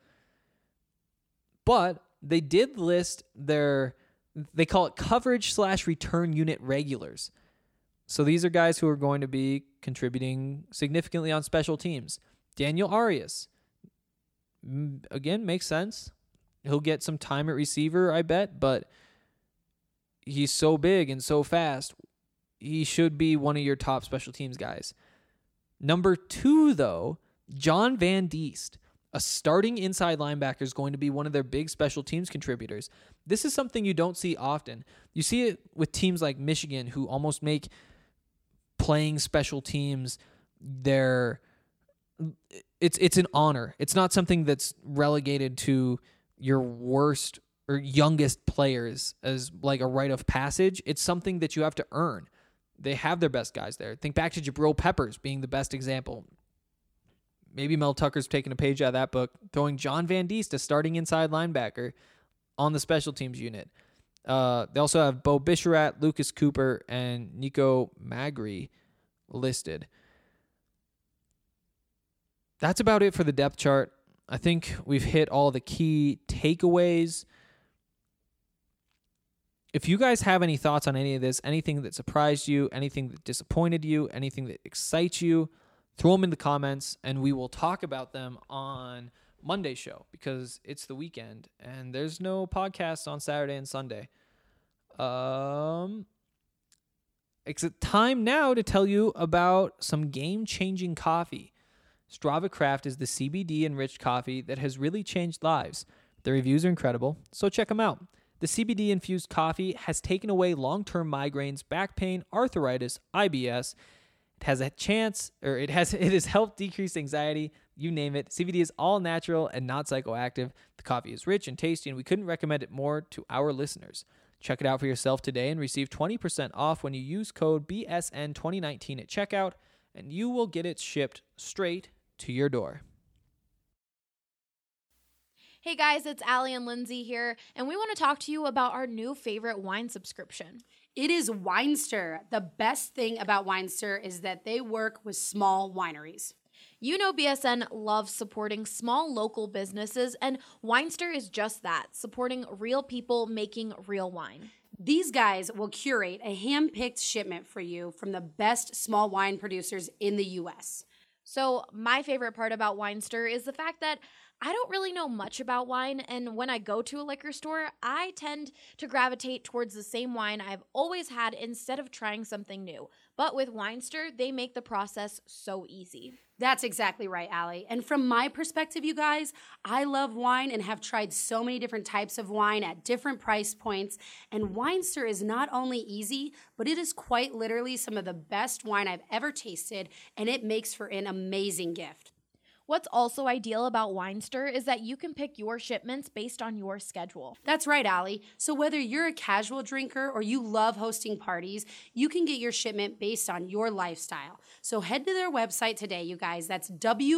But they did list they call it coverage/return unit regulars. So these are guys who are going to be contributing significantly on special teams. Daniel Arias, again, makes sense. He'll get some time at receiver, I bet, but he's so big and so fast. He should be one of your top special teams guys. Number 2, though, John Van Diest, a starting inside linebacker, is going to be one of their big special teams contributors. This is something you don't see often. You see it with teams like Michigan, who almost make playing special teams it's an honor. It's not something that's relegated to your worst or youngest players as like a rite of passage. It's something that you have to earn. They have their best guys there. Think back to Jabril Peppers being the best example. Maybe Mel Tucker's taking a page out of that book, throwing John Van Diest, a starting inside linebacker, on the special teams unit. They also have Bo Bisharat, Lucas Cooper, and Nico Magri listed. that's about it for the depth chart. I think we've hit all the key takeaways. If you guys have any thoughts on any of this, anything that surprised you, anything that disappointed you, anything that excites you, throw them in the comments, and we will talk about them on Monday's show because it's the weekend and there's no podcasts on Saturday and Sunday. It's time now to tell you about some game-changing coffee. Strava Craft is the CBD-enriched coffee that has really changed lives. The reviews are incredible, so check them out. The CBD-infused coffee has taken away long-term migraines, back pain, arthritis, IBS. It has helped decrease anxiety, you name it. CBD is all natural and not psychoactive. The coffee is rich and tasty, and we couldn't recommend it more to our listeners. Check it out for yourself today and receive 20% off when you use code BSN2019 at checkout, and you will get it shipped straight to your door. Hey guys, it's Allie and Lindsay here, and we want to talk to you about our new favorite wine subscription. It is Winester. The best thing about Winester is that they work with small wineries. You know BSN loves supporting small local businesses, and Winester is just that, supporting real people making real wine. These guys will curate a hand-picked shipment for you from the best small wine producers in the U.S. So my favorite part about Winester is the fact that I don't really know much about wine, and when I go to a liquor store, I tend to gravitate towards the same wine I've always had instead of trying something new. But with Winester, they make the process so easy. That's exactly right, Allie. And from my perspective, you guys, I love wine and have tried so many different types of wine at different price points. And Winester is not only easy, but it is quite literally some of the best wine I've ever tasted, and it makes for an amazing gift. What's also ideal about Winester is that you can pick your shipments based on your schedule. That's right, Allie. So whether you're a casual drinker or you love hosting parties, you can get your shipment based on your lifestyle. So head to their website today, you guys. That's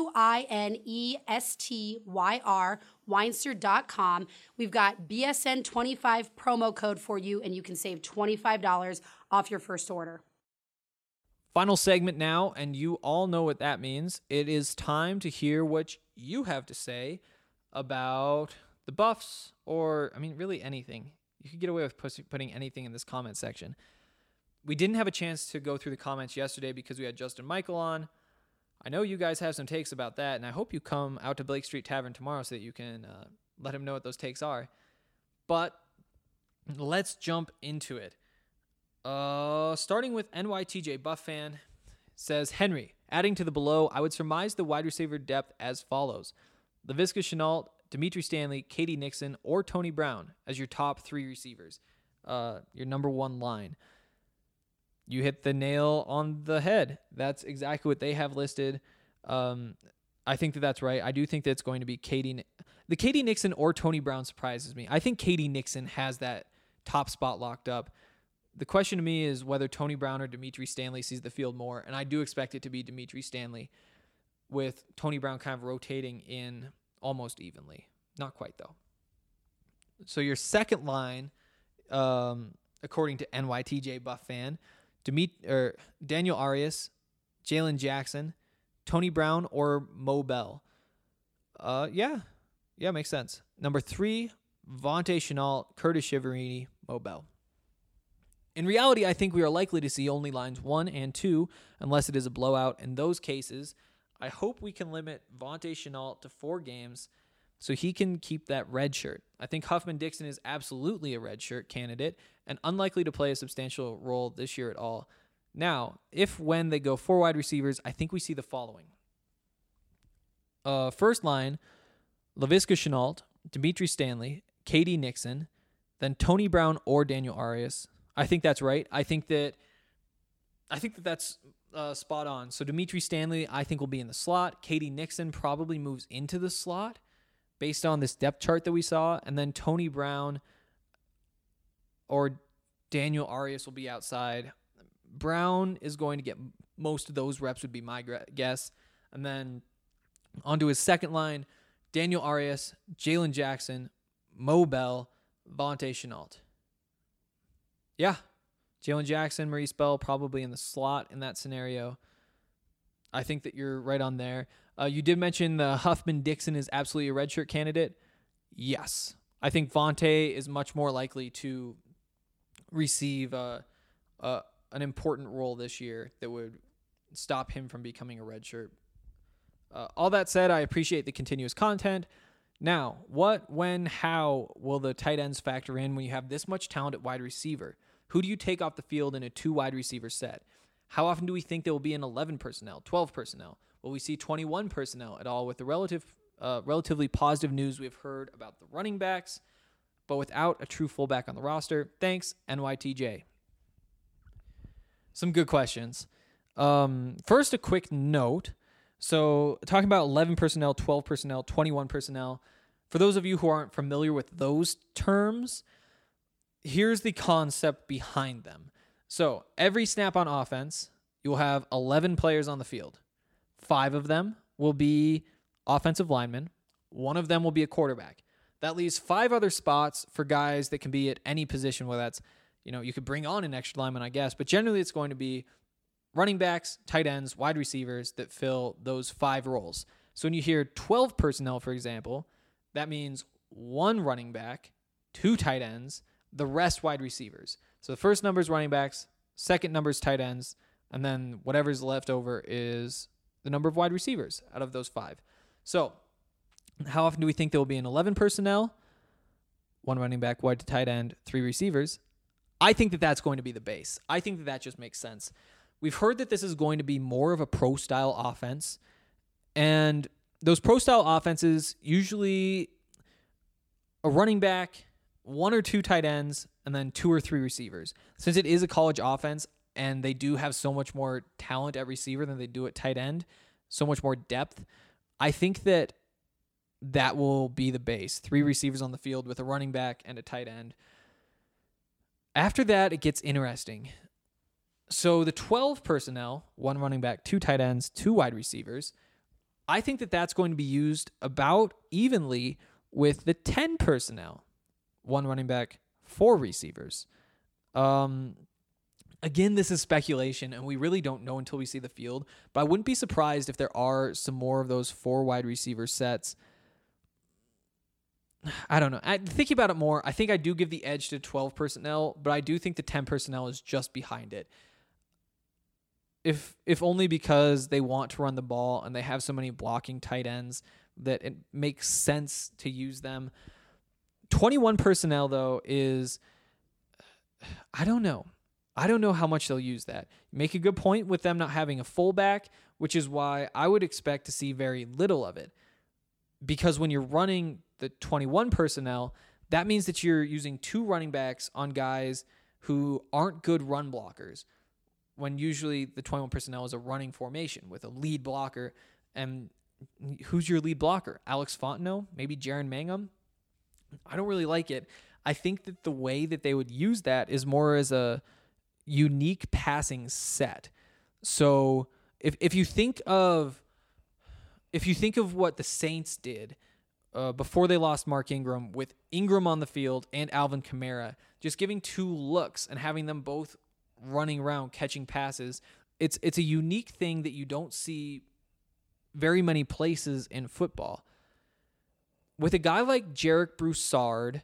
WINESTYR, Winester.com. We've got BSN25 promo code for you, and you can save $25 off your first order. Final segment now, and you all know what that means. It is time to hear what you have to say about the Buffs, or, really anything. You could get away with putting anything in this comment section. We didn't have a chance to go through the comments yesterday because we had Justin Michael on. I know you guys have some takes about that, and I hope you come out to Blake Street Tavern tomorrow so that you can let him know what those takes are. But let's jump into it. Starting with NYTJ Buff fan, says, Henry, adding to the below, I would surmise the wide receiver depth as follows. Laviska Shenault, Dimitri Stanley, Katie Nixon, or Tony Brown as your top three receivers. Your number one line. You hit the nail on the head. That's exactly what they have listed. I think that that's right. I do think that it's going to be the Katie Nixon or Tony Brown surprises me. I think Katie Nixon has that top spot locked up. The question to me is whether Tony Brown or Dimitri Stanley sees the field more, and I do expect it to be Dimitri Stanley, with Tony Brown kind of rotating in almost evenly. Not quite, though. So your second line, according to NYTJ Buff fan, Daniel Arias, Jalen Jackson, Tony Brown, or Mo Bell. Yeah, makes sense. Number 3, Vontae Shenault, Curtis Chiaverini, Mo Bell. In reality, I think we are likely to see only lines 1 and 2 unless it is a blowout. In those cases, I hope we can limit Vontae Shenault to 4 games so he can keep that red shirt. I think Huffman Dixon is absolutely a red shirt candidate and unlikely to play a substantial role this year at all. Now, when they go 4 wide receivers, I think we see the following. First line, Laviska Shenault, Dimitri Stanley, Katie Nixon, then Tony Brown or Daniel Arias. I think that's right. I think that that's spot on. So Dimitri Stanley, I think, will be in the slot. Katie Nixon probably moves into the slot based on this depth chart that we saw. And then Tony Brown or Daniel Arias will be outside. Brown is going to get most of those reps, would be my guess. And then onto his second line, Daniel Arias, Jalen Jackson, Mo Bell, Vontae Shenault. Yeah, Jalen Jackson, Maurice Bell probably in the slot in that scenario. I think that you're right on there. You did mention the Huffman-Dixon is absolutely a redshirt candidate. Yes. I think Vontae is much more likely to receive an important role this year that would stop him from becoming a redshirt. All that said, I appreciate the continuous content. Now, what, when, how will the tight ends factor in when you have this much talent at wide receiver? Who do you take off the field in a 2 wide receiver set? How often do we think there will be an 11 personnel, 12 personnel? Will we see 21 personnel at all with the relatively positive news we've heard about the running backs, but without a true fullback on the roster? Thanks, NYTJ. Some good questions. First, a quick note. So talking about 11 personnel, 12 personnel, 21 personnel, for those of you who aren't familiar with those terms, here's the concept behind them. So every snap on offense, you'll have 11 players on the field. 5 of them will be offensive linemen. 1 of them will be a quarterback. That leaves 5 other spots for guys that can be at any position, whether that's, you could bring on an extra lineman, I guess, but generally it's going to be running backs, tight ends, wide receivers that fill those 5 roles. So when you hear 12 personnel, for example, that means 1 running back, 2 tight ends, the rest wide receivers. So the first number is running backs, second number is tight ends, and then whatever's left over is the number of wide receivers out of those 5. So how often do we think there will be an 11 personnel? 1 running back, 1 tight end, 3 receivers. I think that that's going to be the base. I think that just makes sense. We've heard that this is going to be more of a pro-style offense, and those pro-style offenses, usually a running back, 1 or 2 tight ends, and then 2 or 3 receivers. Since it is a college offense, and they do have so much more talent at receiver than they do at tight end, so much more depth, I think that will be the base. 3 receivers on the field with a running back and a tight end. After that, it gets interesting. So the 12 personnel, 1 running back, 2 tight ends, 2 wide receivers, I think that that's going to be used about evenly with the 10 personnel, 1 running back, 4 receivers. Again, this is speculation, and we really don't know until we see the field, but I wouldn't be surprised if there are some more of those 4 wide receiver sets. I don't know. Thinking about it more, I think I do give the edge to 12 personnel, but I do think the 10 personnel is just behind it. If only because they want to run the ball and they have so many blocking tight ends that it makes sense to use them. 21 personnel, though, is, I don't know. I don't know how much they'll use that. You make a good point with them not having a fullback, which is why I would expect to see very little of it. Because when you're running the 21 personnel, that means that you're using 2 running backs on guys who aren't good run blockers, when usually the 21 personnel is a running formation with a lead blocker. And who's your lead blocker? Alex Fontenot? Maybe Jaron Mangum? I don't really like it. I think that the way that they would use that is more as a unique passing set. So if you think of what the Saints did before they lost Mark Ingram, with Ingram on the field and Alvin Kamara, just giving 2 looks and having them both running around catching passes, it's a unique thing that you don't see very many places in football. With a guy like Jarek Broussard,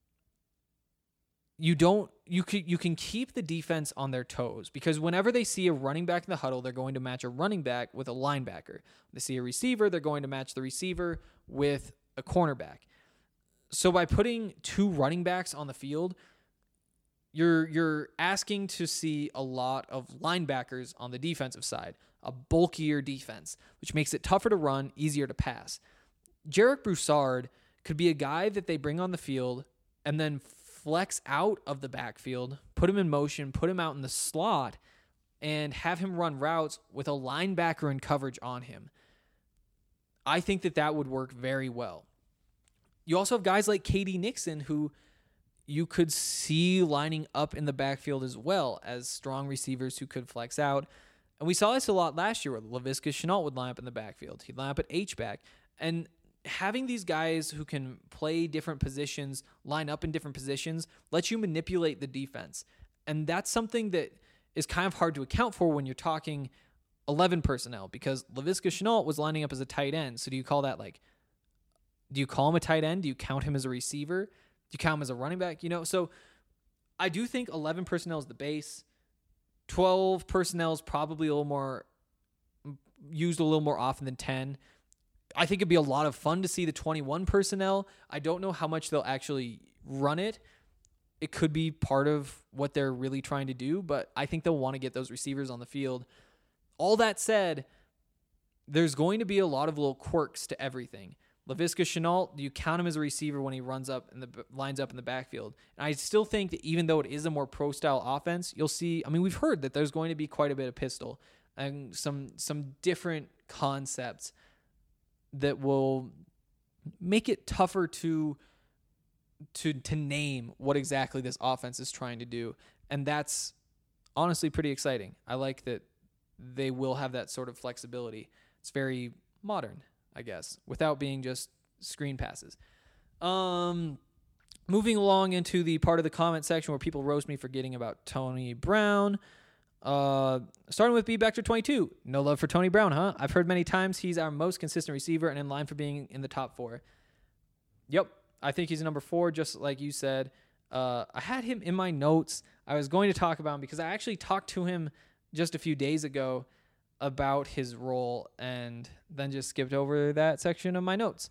you can keep the defense on their toes, because whenever they see a running back in the huddle, they're going to match a running back with a linebacker. When they see a receiver, they're going to match the receiver with a cornerback. So by putting 2 running backs on the field, you're asking to see a lot of linebackers on the defensive side, a bulkier defense, which makes it tougher to run, easier to pass. Jarek Broussard could be a guy that they bring on the field and then flex out of the backfield, put him in motion, put him out in the slot, and have him run routes with a linebacker in coverage on him. I think that would work very well. You also have guys like KD Nixon, who you could see lining up in the backfield as well as strong receivers who could flex out. And we saw this a lot last year where Laviska Shenault would line up in the backfield. He'd line up at H-back. And having these guys who can play different positions, line up in different positions, lets you manipulate the defense. And that's something that is kind of hard to account for when you're talking 11 personnel because Laviska Shenault was lining up as a tight end. So do you call that do you call him a tight end? Do you count him as a receiver? Do you count him as a running back? So I do think 11 personnel is the base. 12 personnel is probably used a little more often than 10. I think it'd be a lot of fun to see the 21 personnel. I don't know how much they'll actually run it. It could be part of what they're really trying to do, but I think they'll want to get those receivers on the field. All that said, there's going to be a lot of little quirks to everything. Laviska Shenault, do you count him as a receiver when he lines up in the backfield? And I still think that even though it is a more pro-style offense, you'll see, we've heard that there's going to be quite a bit of pistol and some different concepts that will make it tougher to name what exactly this offense is trying to do. And that's honestly pretty exciting. I like that they will have that sort of flexibility. It's very modern, I guess, without being just screen passes. Moving along into the part of the comment section where people roast me for forgetting about Tony Brown. Starting with B-Bector22. No love for Tony Brown, huh? I've heard many times he's our most consistent receiver and in line for being in the top 4. Yep, I think he's number 4, just like you said. I had him in my notes. I was going to talk about him because I actually talked to him just a few days ago about his role and then just skipped over that section of my notes.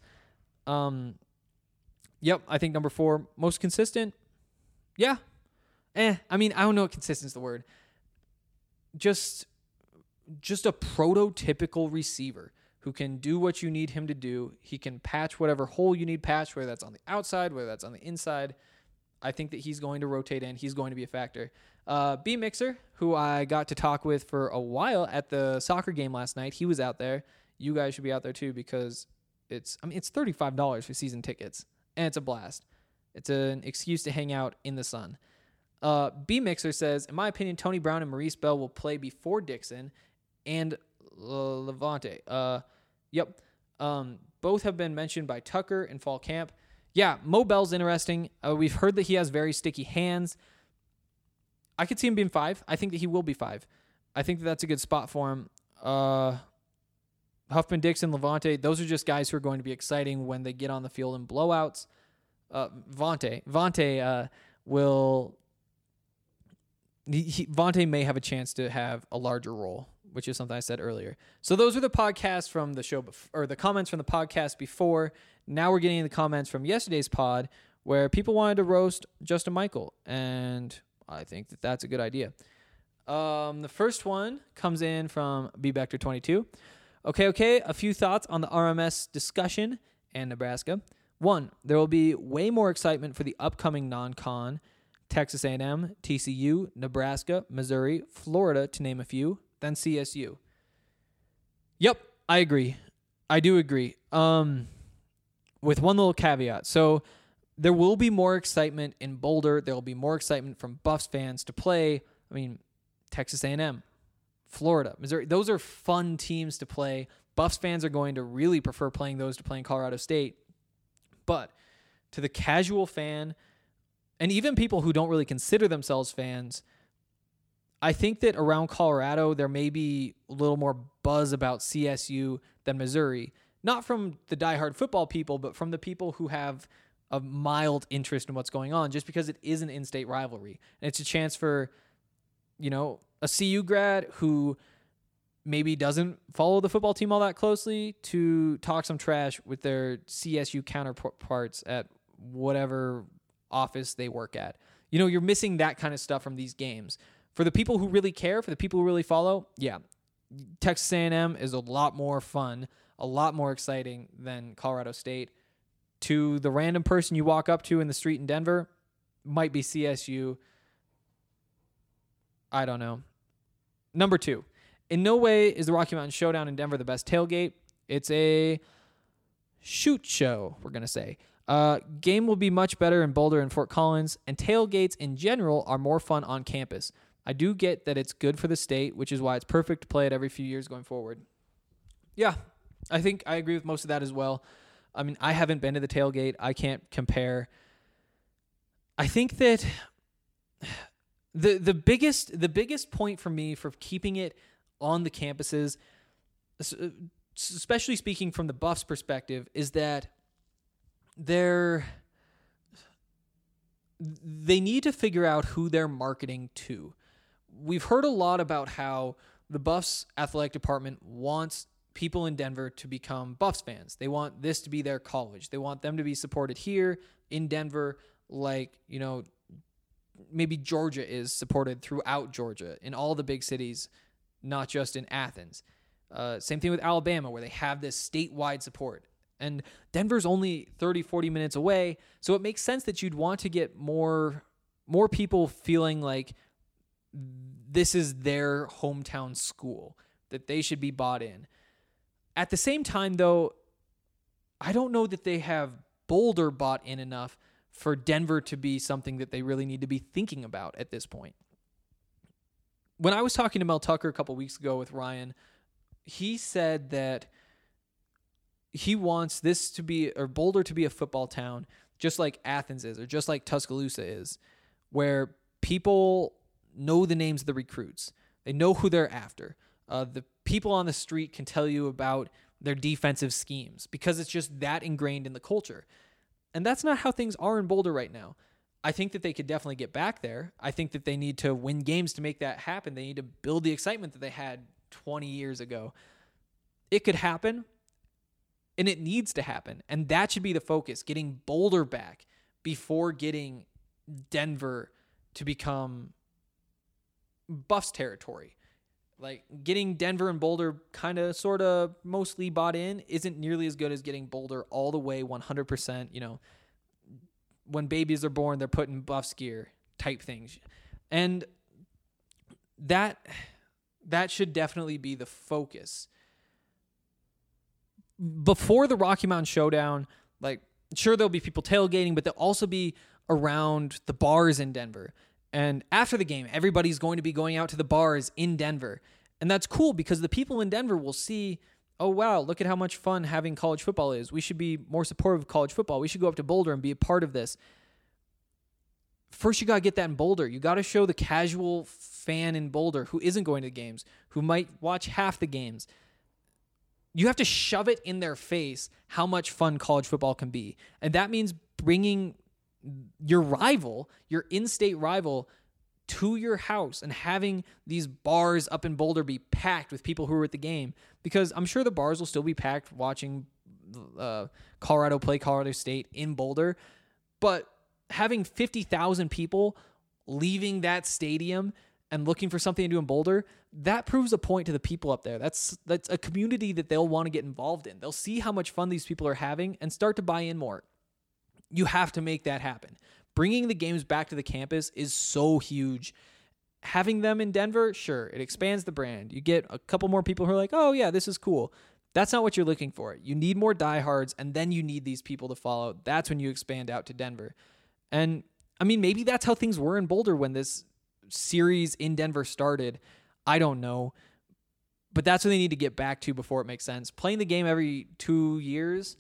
Yep, I think number 4, most consistent. Yeah. I don't know if consistent is the word. Just a prototypical receiver who can do what you need him to do. He can patch whatever hole you need patched, whether that's on the outside, whether that's on the inside. I think that he's going to rotate in. He's going to be a factor. B Mixer, who I got to talk with for a while at the soccer game last night, he was out there. You guys should be out there too because it's $35 for season tickets, and it's a blast. It's an excuse to hang out in the sun. B Mixer says, in my opinion, Tony Brown and Maurice Bell will play before Dixon and Levante. Yep. Both have been mentioned by Tucker in fall camp. Yeah, Mo Bell's interesting. We've heard that he has very sticky hands. I could see him being 5. I think that he will be 5. I think that that's a good spot for him. Huffman, Dixon, Levante, those are just guys who are going to be exciting when they get on the field in blowouts. Vontae will... Vontae may have a chance to have a larger role, which is something I said earlier. So those are the podcasts from the show, or the comments from the podcast before. Now we're getting the comments from yesterday's pod where people wanted to roast Justin Michael, and I think that that's a good idea. The first one comes in from B-Bector22. Okay, a few thoughts on the RMS discussion and Nebraska. 1, there will be way more excitement for the upcoming non-con, Texas A&M, TCU, Nebraska, Missouri, Florida, to name a few, than CSU. Yep, I agree. I do agree. With one little caveat. So there will be more excitement in Boulder. There will be more excitement from Buffs fans to play. Texas A&M, Florida, Missouri. Those are fun teams to play. Buffs fans are going to really prefer playing those to playing Colorado State. But to the casual fan, and even people who don't really consider themselves fans, I think that around Colorado, there may be a little more buzz about CSU than Missouri. Not from the diehard football people, but from the people who have a mild interest in what's going on, just because it is an in-state rivalry. And it's a chance for, a CU grad who maybe doesn't follow the football team all that closely to talk some trash with their CSU counterparts at whatever office they work at. You're missing that kind of stuff from these games. For the people who really care, for the people who really follow, yeah, Texas A&M is a lot more fun, a lot more exciting than Colorado State. To the random person you walk up to in the street in Denver, might be CSU. I don't know. Number 2, in no way is the Rocky Mountain Showdown in Denver the best tailgate. It's a shoot show, we're going to say. Game will be much better in Boulder and Fort Collins, and tailgates in general are more fun on campus. I do get that it's good for the state, which is why it's perfect to play it every few years going forward. Yeah, I think I agree with most of that as well. I haven't been to the tailgate. I can't compare. I think that the biggest point for me for keeping it on the campuses, especially speaking from the Buffs' perspective, is that they need to figure out who they're marketing to. We've heard a lot about how the Buffs athletic department wants people in Denver to become Buffs fans. They want this to be their college. They want them to be supported here in Denver, like, you know, maybe Georgia is supported throughout Georgia in all the big cities, not just in Athens. Same thing with Alabama, where they have this statewide support. And Denver's only 30, 40 minutes away, so it makes sense that you'd want to get more people feeling like this is their hometown school, that they should be bought in. At the same time, though, I don't know that they have Boulder bought in enough for Denver to be something that they really need to be thinking about at this point. When I was talking to Mel Tucker a couple weeks ago with Ryan, he said that he wants this to be, or Boulder to be, a football town, just like Athens is, or just like Tuscaloosa is, where people know the names of the recruits. They know who they're after. The people on the street can tell you about their defensive schemes because it's just that ingrained in the culture. And that's not how things are in Boulder right now. I think that they could definitely get back there. I think that they need to win games to make that happen. They need to build the excitement that they had 20 years ago. It could happen, and it needs to happen. And that should be the focus, getting Boulder back before getting Denver to become Buffs territory. Like, getting Denver and Boulder kind of, sort of, mostly bought in isn't nearly as good as getting Boulder all the way 100%, you know, when babies are born, they're put in Buffs gear type things. And that should definitely be the focus. Before the Rocky Mountain Showdown, like, sure, there'll be people tailgating, but they'll also be around the bars in Denver. And after the game, everybody's going to be going out to the bars in Denver. And that's cool because the people in Denver will see, oh, wow, look at how much fun having college football is. We should be more supportive of college football. We should go up to Boulder and be a part of this. First, you got to get that in Boulder. You got to show the casual fan in Boulder who isn't going to the games, who might watch half the games. You have to shove it in their face how much fun college football can be. And that means bringing your rival, your in-state rival, to your house and having these bars up in Boulder be packed with people who are at the game. Because I'm sure the bars will still be packed watching Colorado play Colorado State in Boulder. But having 50,000 people leaving that stadium and looking for something to do in Boulder, that proves a point to the people up there. That's a community that they'll want to get involved in. They'll see how much fun these people are having and start to buy in more. You have to make that happen. Bringing the games back to the campus is so huge. Having them in Denver, sure, it expands the brand. You get a couple more people who are like, oh yeah, this is cool. That's not what you're looking for. You need more diehards, and then you need these people to follow. That's when you expand out to Denver. And I mean, maybe that's how things were in Boulder when this series in Denver started. I don't know. But that's what they need to get back to before it makes sense. Playing the game every 2 years,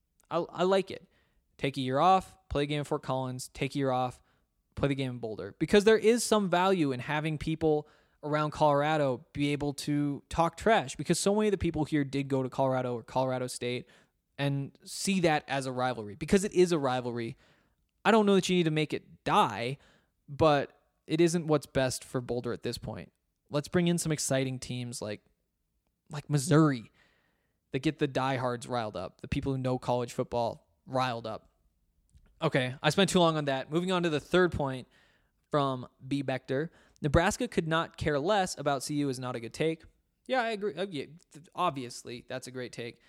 I like it. Take a year off, play a game in Fort Collins, take a year off, play the game in Boulder. Because there is some value in having people around Colorado be able to talk trash. Because so many of the people here did go to Colorado or Colorado State and see that as a rivalry. Because it is a rivalry. I don't know that you need to make it die, but it isn't what's best for Boulder at this point. Let's bring in some exciting teams like Missouri that get the diehards riled up, the people who know college football riled up. Okay, I spent too long on that. Moving on to the third point from B. Bechter. Nebraska could not care less about CU is not a good take. Yeah, I agree. Yeah, obviously, that's a great take.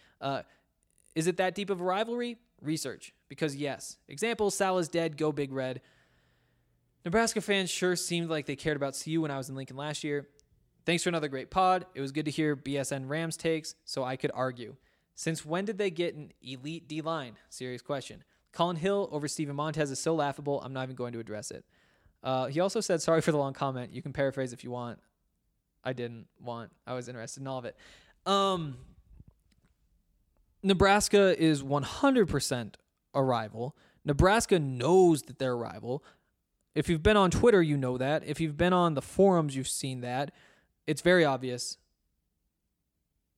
Is it that deep of a rivalry? Research. Because yes. Example, Sal is dead, go Big Red. Nebraska fans sure seemed like they cared about CU when I was in Lincoln last year. Thanks for another great pod. It was good to hear BSN Rams takes, so I could argue. Since when did they get an elite D-line? Serious question. Colin Hill over Steven Montez is so laughable, I'm not even going to address it. He also said, sorry for the long comment. You can paraphrase if you want. I didn't want. I was interested in all of it. Nebraska is 100% a rival. Nebraska knows that they're a rival. If you've been on Twitter, you know that. If you've been on the forums, you've seen that. It's very obvious.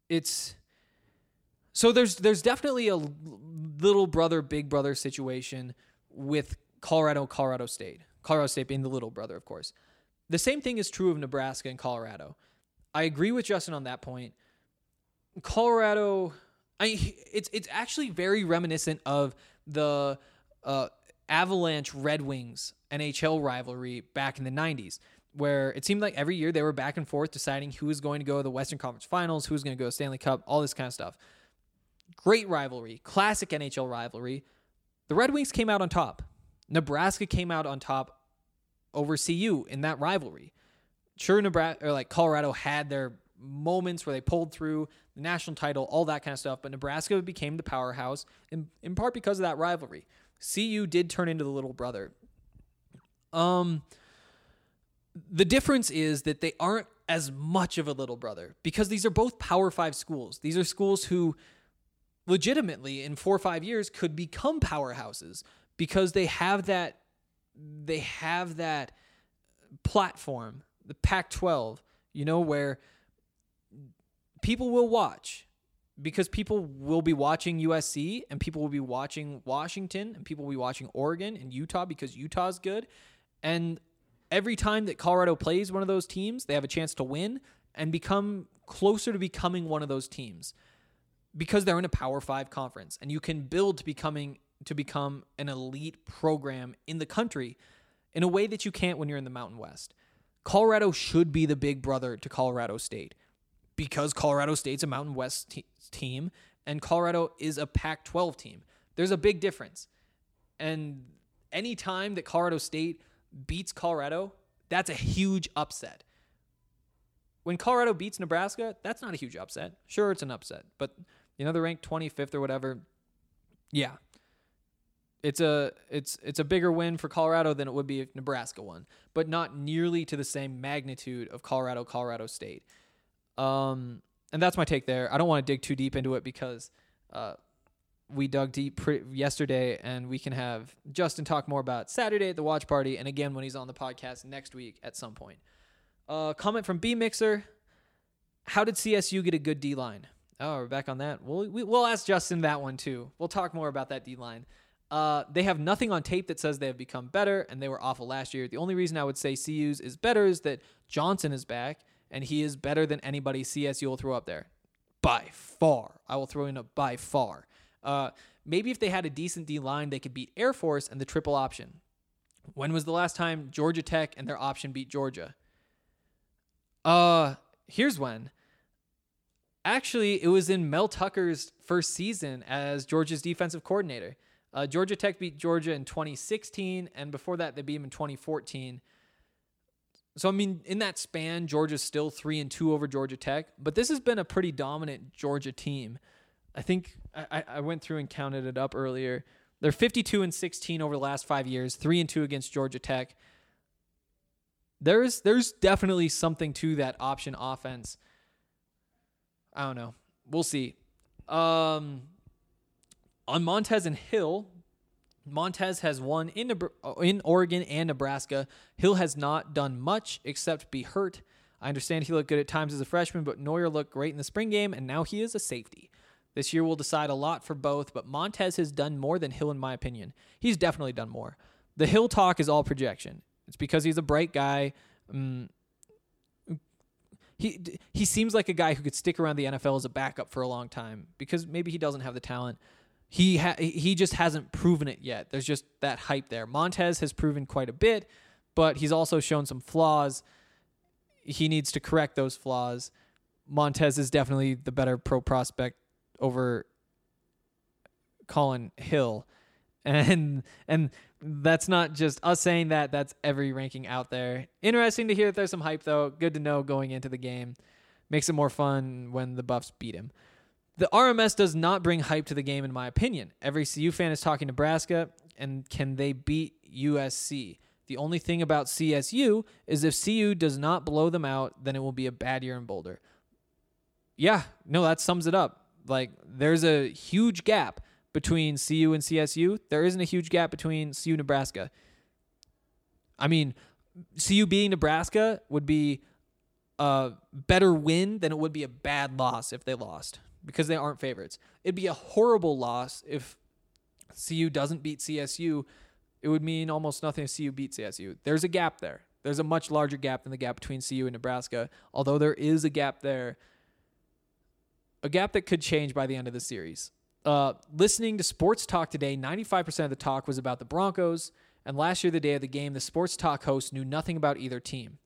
so there's definitely a little brother, big brother situation with Colorado State being the little brother, of course. The same thing is true of Nebraska and Colorado. I agree with Justin on that point. Colorado, it's actually very reminiscent of the Avalanche Red Wings NHL rivalry back in the 90s, where it seemed like every year they were back and forth deciding who was going to go to the Western Conference Finals, who was going to go to Stanley Cup, all this kind of stuff. Great rivalry, classic NHL rivalry. The Red Wings came out on top. Nebraska came out on top over CU in that rivalry. Sure, Colorado had their moments where they pulled through the national title, all that kind of stuff, but Nebraska became the powerhouse in part because of that rivalry. CU did turn into the little brother. The difference is that they aren't as much of a little brother because these are both Power 5 schools. These are schools who legitimately in 4 or 5 years could become powerhouses because they have that platform, the Pac-12, where people will watch because people will be watching USC and people will be watching Washington and people will be watching Oregon and Utah because Utah's good. And every time that Colorado plays one of those teams, they have a chance to win and become closer to becoming one of those teams because they're in a Power 5 conference and you can build to become an elite program in the country in a way that you can't when you're in the Mountain West. Colorado should be the big brother to Colorado State because Colorado State's a Mountain West team and Colorado is a Pac-12 team. There's a big difference. And any time that Colorado State beats Colorado, that's a huge upset. When Colorado beats Nebraska, that's not a huge upset. Sure, it's an upset, but they're ranked 25th or whatever. Yeah. It's a bigger win for Colorado than it would be if Nebraska won, but not nearly to the same magnitude of Colorado State. And that's my take there. I don't want to dig too deep into it because we dug deep yesterday, and we can have Justin talk more about Saturday at the watch party, and again when he's on the podcast next week at some point. Comment from B Mixer: how did CSU get a good D-line? Oh, we're back on that. We'll ask Justin that one too. We'll talk more about that D-line. They have nothing on tape that says they have become better, and they were awful last year. The only reason I would say CU's is better is that Johnson is back, and he is better than anybody CSU will throw up there. By far. I will throw in a by far. Maybe if they had a decent D-line, they could beat Air Force and the triple option. When was the last time Georgia Tech and their option beat Georgia? Here's when. Actually, it was in Mel Tucker's first season as Georgia's defensive coordinator. Georgia Tech beat Georgia in 2016, and before that, they beat them in 2014. So, in that span, Georgia's still 3-2 over Georgia Tech, but this has been a pretty dominant Georgia team. I think I went through and counted it up earlier. They're 52-16 over the last 5 years, 3-2 against Georgia Tech. There's definitely something to that option offense. I don't know. We'll see. On Montez and Hill, Montez has won in Oregon and Nebraska. Hill has not done much except be hurt. I understand he looked good at times as a freshman, but Neuer looked great in the spring game, and now he is a safety. This year will decide a lot for both, but Montez has done more than Hill in my opinion. He's definitely done more. The Hill talk is all projection. It's because he's a bright guy. He seems like a guy who could stick around the NFL as a backup for a long time because maybe he doesn't have the talent. He just hasn't proven it yet. There's just that hype there. Montez has proven quite a bit, but he's also shown some flaws. He needs to correct those flaws. Montez is definitely the better pro prospect over Colin Hill. And that's not just us saying that. That's every ranking out there. Interesting to hear that there's some hype, though. Good to know going into the game. Makes it more fun when the Buffs beat him. The RMS does not bring hype to the game, in my opinion. Every CU fan is talking Nebraska, and can they beat USC? The only thing about CSU is if CU does not blow them out, then it will be a bad year in Boulder. Yeah, no, that sums it up. Like, there's a huge gap between CU and CSU. There isn't a huge gap between CU and Nebraska. CU beating Nebraska would be a better win than it would be a bad loss if they lost, because they aren't favorites. It'd be a horrible loss if CU doesn't beat CSU. It would mean almost nothing if CU beats CSU. There's a gap there. There's a much larger gap than the gap between CU and Nebraska, although there is a gap there. A gap that could change by the end of the series. Listening to Sports Talk today, 95% of the talk was about the Broncos, and last year, the day of the game, the Sports Talk host knew nothing about either team.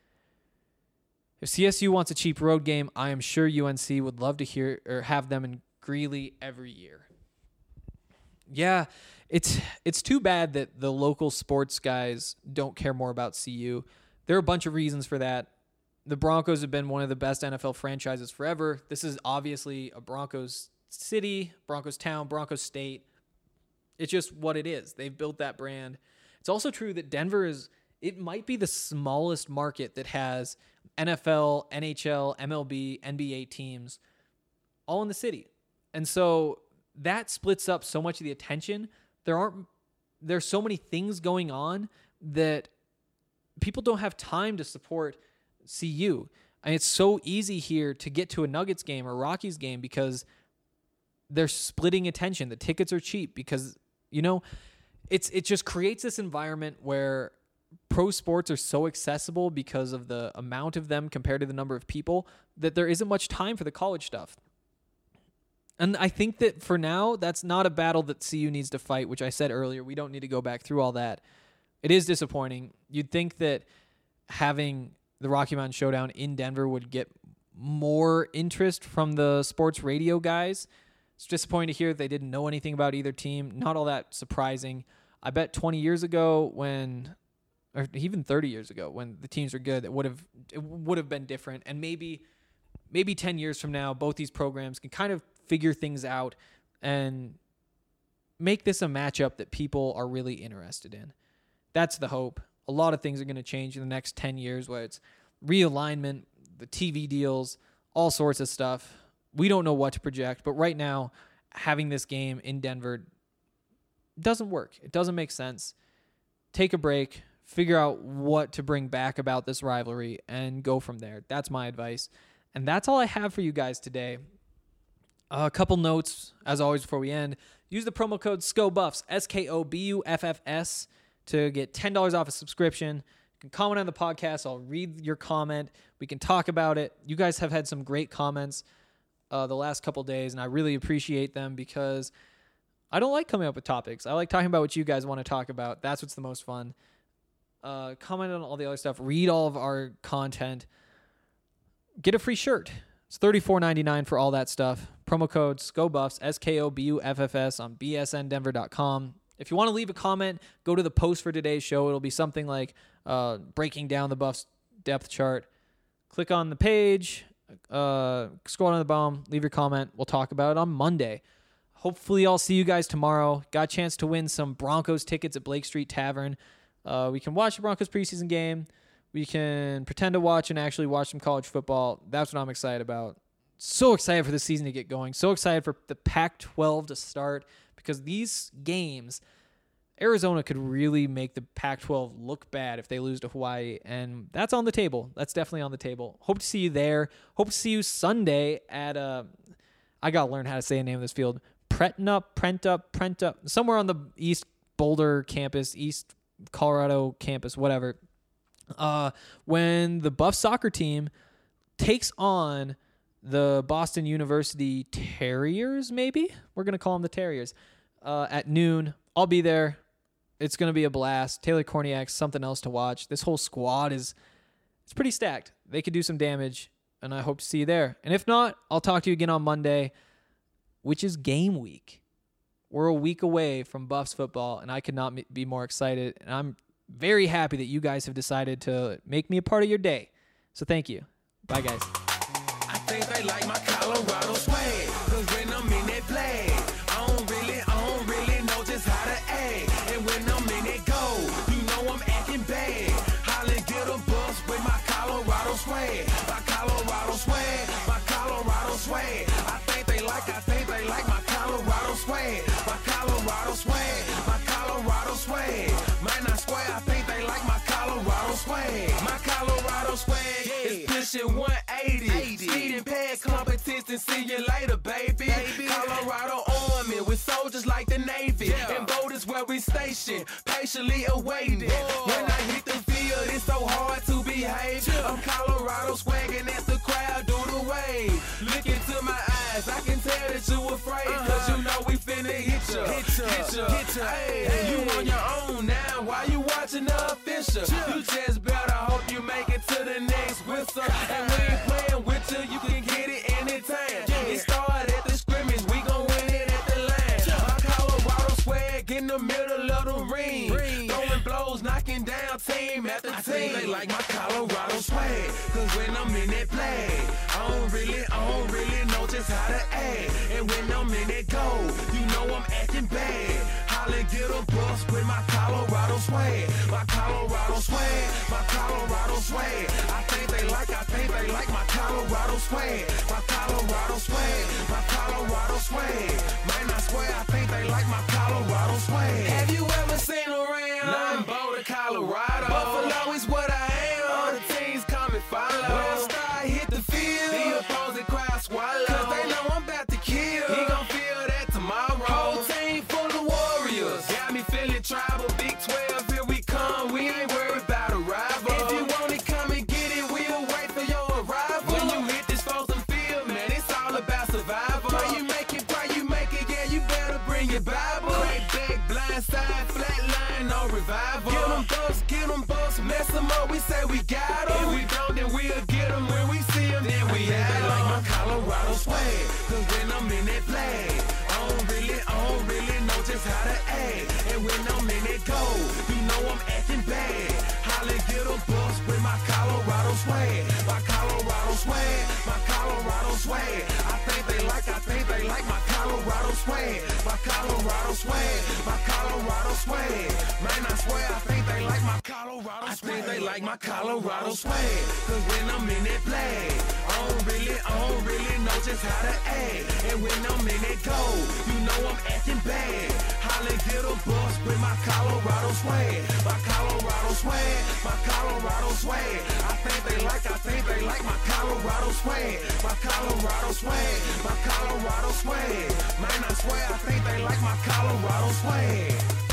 If CSU wants a cheap road game, I am sure UNC would love to hear or have them in Greeley every year. Yeah, it's too bad that the local sports guys don't care more about CU. There are a bunch of reasons for that. The Broncos have been one of the best NFL franchises forever. This is obviously a Broncos city, Broncos town, Broncos state. It's just what it is. They've built that brand. It's also true that Denver it might be the smallest market that has NFL, NHL, MLB, NBA teams all in the city. And so that splits up so much of the attention. There's so many things going on that people don't have time to support CU. And it's so easy here to get to a Nuggets game or Rockies game because they're splitting attention. The tickets are cheap because, it just creates this environment where pro sports are so accessible because of the amount of them compared to the number of people that there isn't much time for the college stuff. And I think that for now, that's not a battle that CU needs to fight, which I said earlier. We don't need to go back through all that. It is disappointing. You'd think that having the Rocky Mountain Showdown in Denver would get more interest from the sports radio guys. It's disappointing to hear that they didn't know anything about either team. Not all that surprising. I bet 20 years ago or even 30 years ago when the teams were good, it would have been different. And maybe 10 years from now, both these programs can kind of figure things out and make this a matchup that people are really interested in. That's the hope. A lot of things are going to change in the next 10 years, whether it's realignment, the TV deals, all sorts of stuff. We don't know what to project, but right now, having this game in Denver doesn't work. It doesn't make sense. Take a break, figure out what to bring back about this rivalry, and go from there. That's my advice. And that's all I have for you guys today. A couple notes, as always, before we end. Use the promo code SCOBUFFS, SKOBUFFS, to get $10 off a subscription. You can comment on the podcast. I'll read your comment. We can talk about it. You guys have had some great comments the last couple days, and I really appreciate them because I don't like coming up with topics. I like talking about what you guys want to talk about. That's what's the most fun. Comment on all the other stuff. Read all of our content. Get a free shirt. It's $34.99 for all that stuff. Promo code SCOBUFFS, SKOBUFFS on bsndenver.com. If you want to leave a comment, go to the post for today's show. It'll be something like breaking down the Buffs depth chart. Click on the page, scroll down the bottom, leave your comment. We'll talk about it on Monday. Hopefully I'll see you guys tomorrow. Got a chance to win some Broncos tickets at Blake Street Tavern. We can watch the Broncos preseason game. We can pretend to watch and actually watch some college football. That's what I'm excited about. So excited for the season to get going. So excited for the Pac-12 to start because these games, Arizona could really make the Pac-12 look bad if they lose to Hawaii, and that's on the table. That's definitely on the table. Hope to see you there. Hope to see you Sunday at I got to learn how to say the name of this field. Prenta, somewhere on the East Boulder campus, East Colorado campus, whatever. When the Buff soccer team takes on the Boston University Terriers, maybe? We're going to call them the Terriers. At noon, I'll be there. It's going to be a blast. Taylor Korniak's something else to watch. This whole squad it's pretty stacked. They could do some damage, and I hope to see you there. And if not, I'll talk to you again on Monday, which is game week. We're a week away from Buffs football, and I could not be more excited. And I'm very happy that you guys have decided to make me a part of your day. So thank you. Bye, guys. I think they like my Colorado swag, 'cause when I'm in that flag, I don't really know just how to act. And when I'm in that goal, you know I'm acting bad. Holla, get a bus with my Colorado swag. My Colorado swag, my Colorado swag. I think they like my Colorado swag. My Colorado swag, my Colorado swag. Might not square, I think they like my Colorado swag. My Colorado swag is push pushing 180. Speeding past competition, see you later, baby. Colorado Army with soldiers like the Navy. And boat is where we station, patiently awaiting. When I hit the field, it's so hard to behave. I'm Colorado swagging as the crowd do the wave. Look into my eyes, I can tell that you afraid. Cause you know we finna hit ya. Hey, you on your own now, why you watching the official? You just better hope you make it to the next whistle. And we ain't playing with you can get it anytime. It started at the scrimmage, we gon' win it at the line. My Colorado swag in the middle of the ring. Throwing blows, knocking down team after team. I think they like my Colorado swag, cause when I'm in that play, I don't really know just how to act. And when I'm in that goal, you know I'm acting bad. Holla, get a bus with my Colorado swag. My Colorado swag, my Colorado swag. I think they like my Colorado swag. My Colorado swag, my Colorado swag. Man, I swear I think they like my Colorado swag. Have you ever seen around? Nah, I'm Boulder, Colorado. Buffalo is what I am. All the teams come and follow. When I start hit the field, the opposing crowd swallow. Cause they know I'm about to kill. He gon' feel that tomorrow. Whole team full of warriors. Got me feeling tribal. Big 12, here we come. We ain't worried about a rival. If you want it, come and get it. We'll wait for your arrival. When you hit this frozen field, man, it's all about survival. Pray you make it, yeah, you better bring your Bible. Crack back, blind side, flat line, no revival. Get them bucks, mess them up, we say we got them. If we don't, then we'll get them. When we see them, then we have them. Like my Colorado swag, cause when I'm in that flag, I don't really know just how to act. And when I'm in that goal, you know I'm acting bad. Holla, get a bus with my Colorado swag. My Colorado swag, my Colorado swag. I think they like my Colorado swag. My Colorado swag, my Colorado swag. Man, I swear I think they like my Colorado swag. I think they like my Colorado swag. Cause when I'm in that flag, I don't really know just how to act. And when I'm in that goal, you know I'm acting bad. Holla, get a bus with my Colorado swag. My Colorado swag, my Colorado swag. I think they like my Colorado swag. My Colorado swag, my Colorado swag. Man, I swear I think they like my Colorado swag.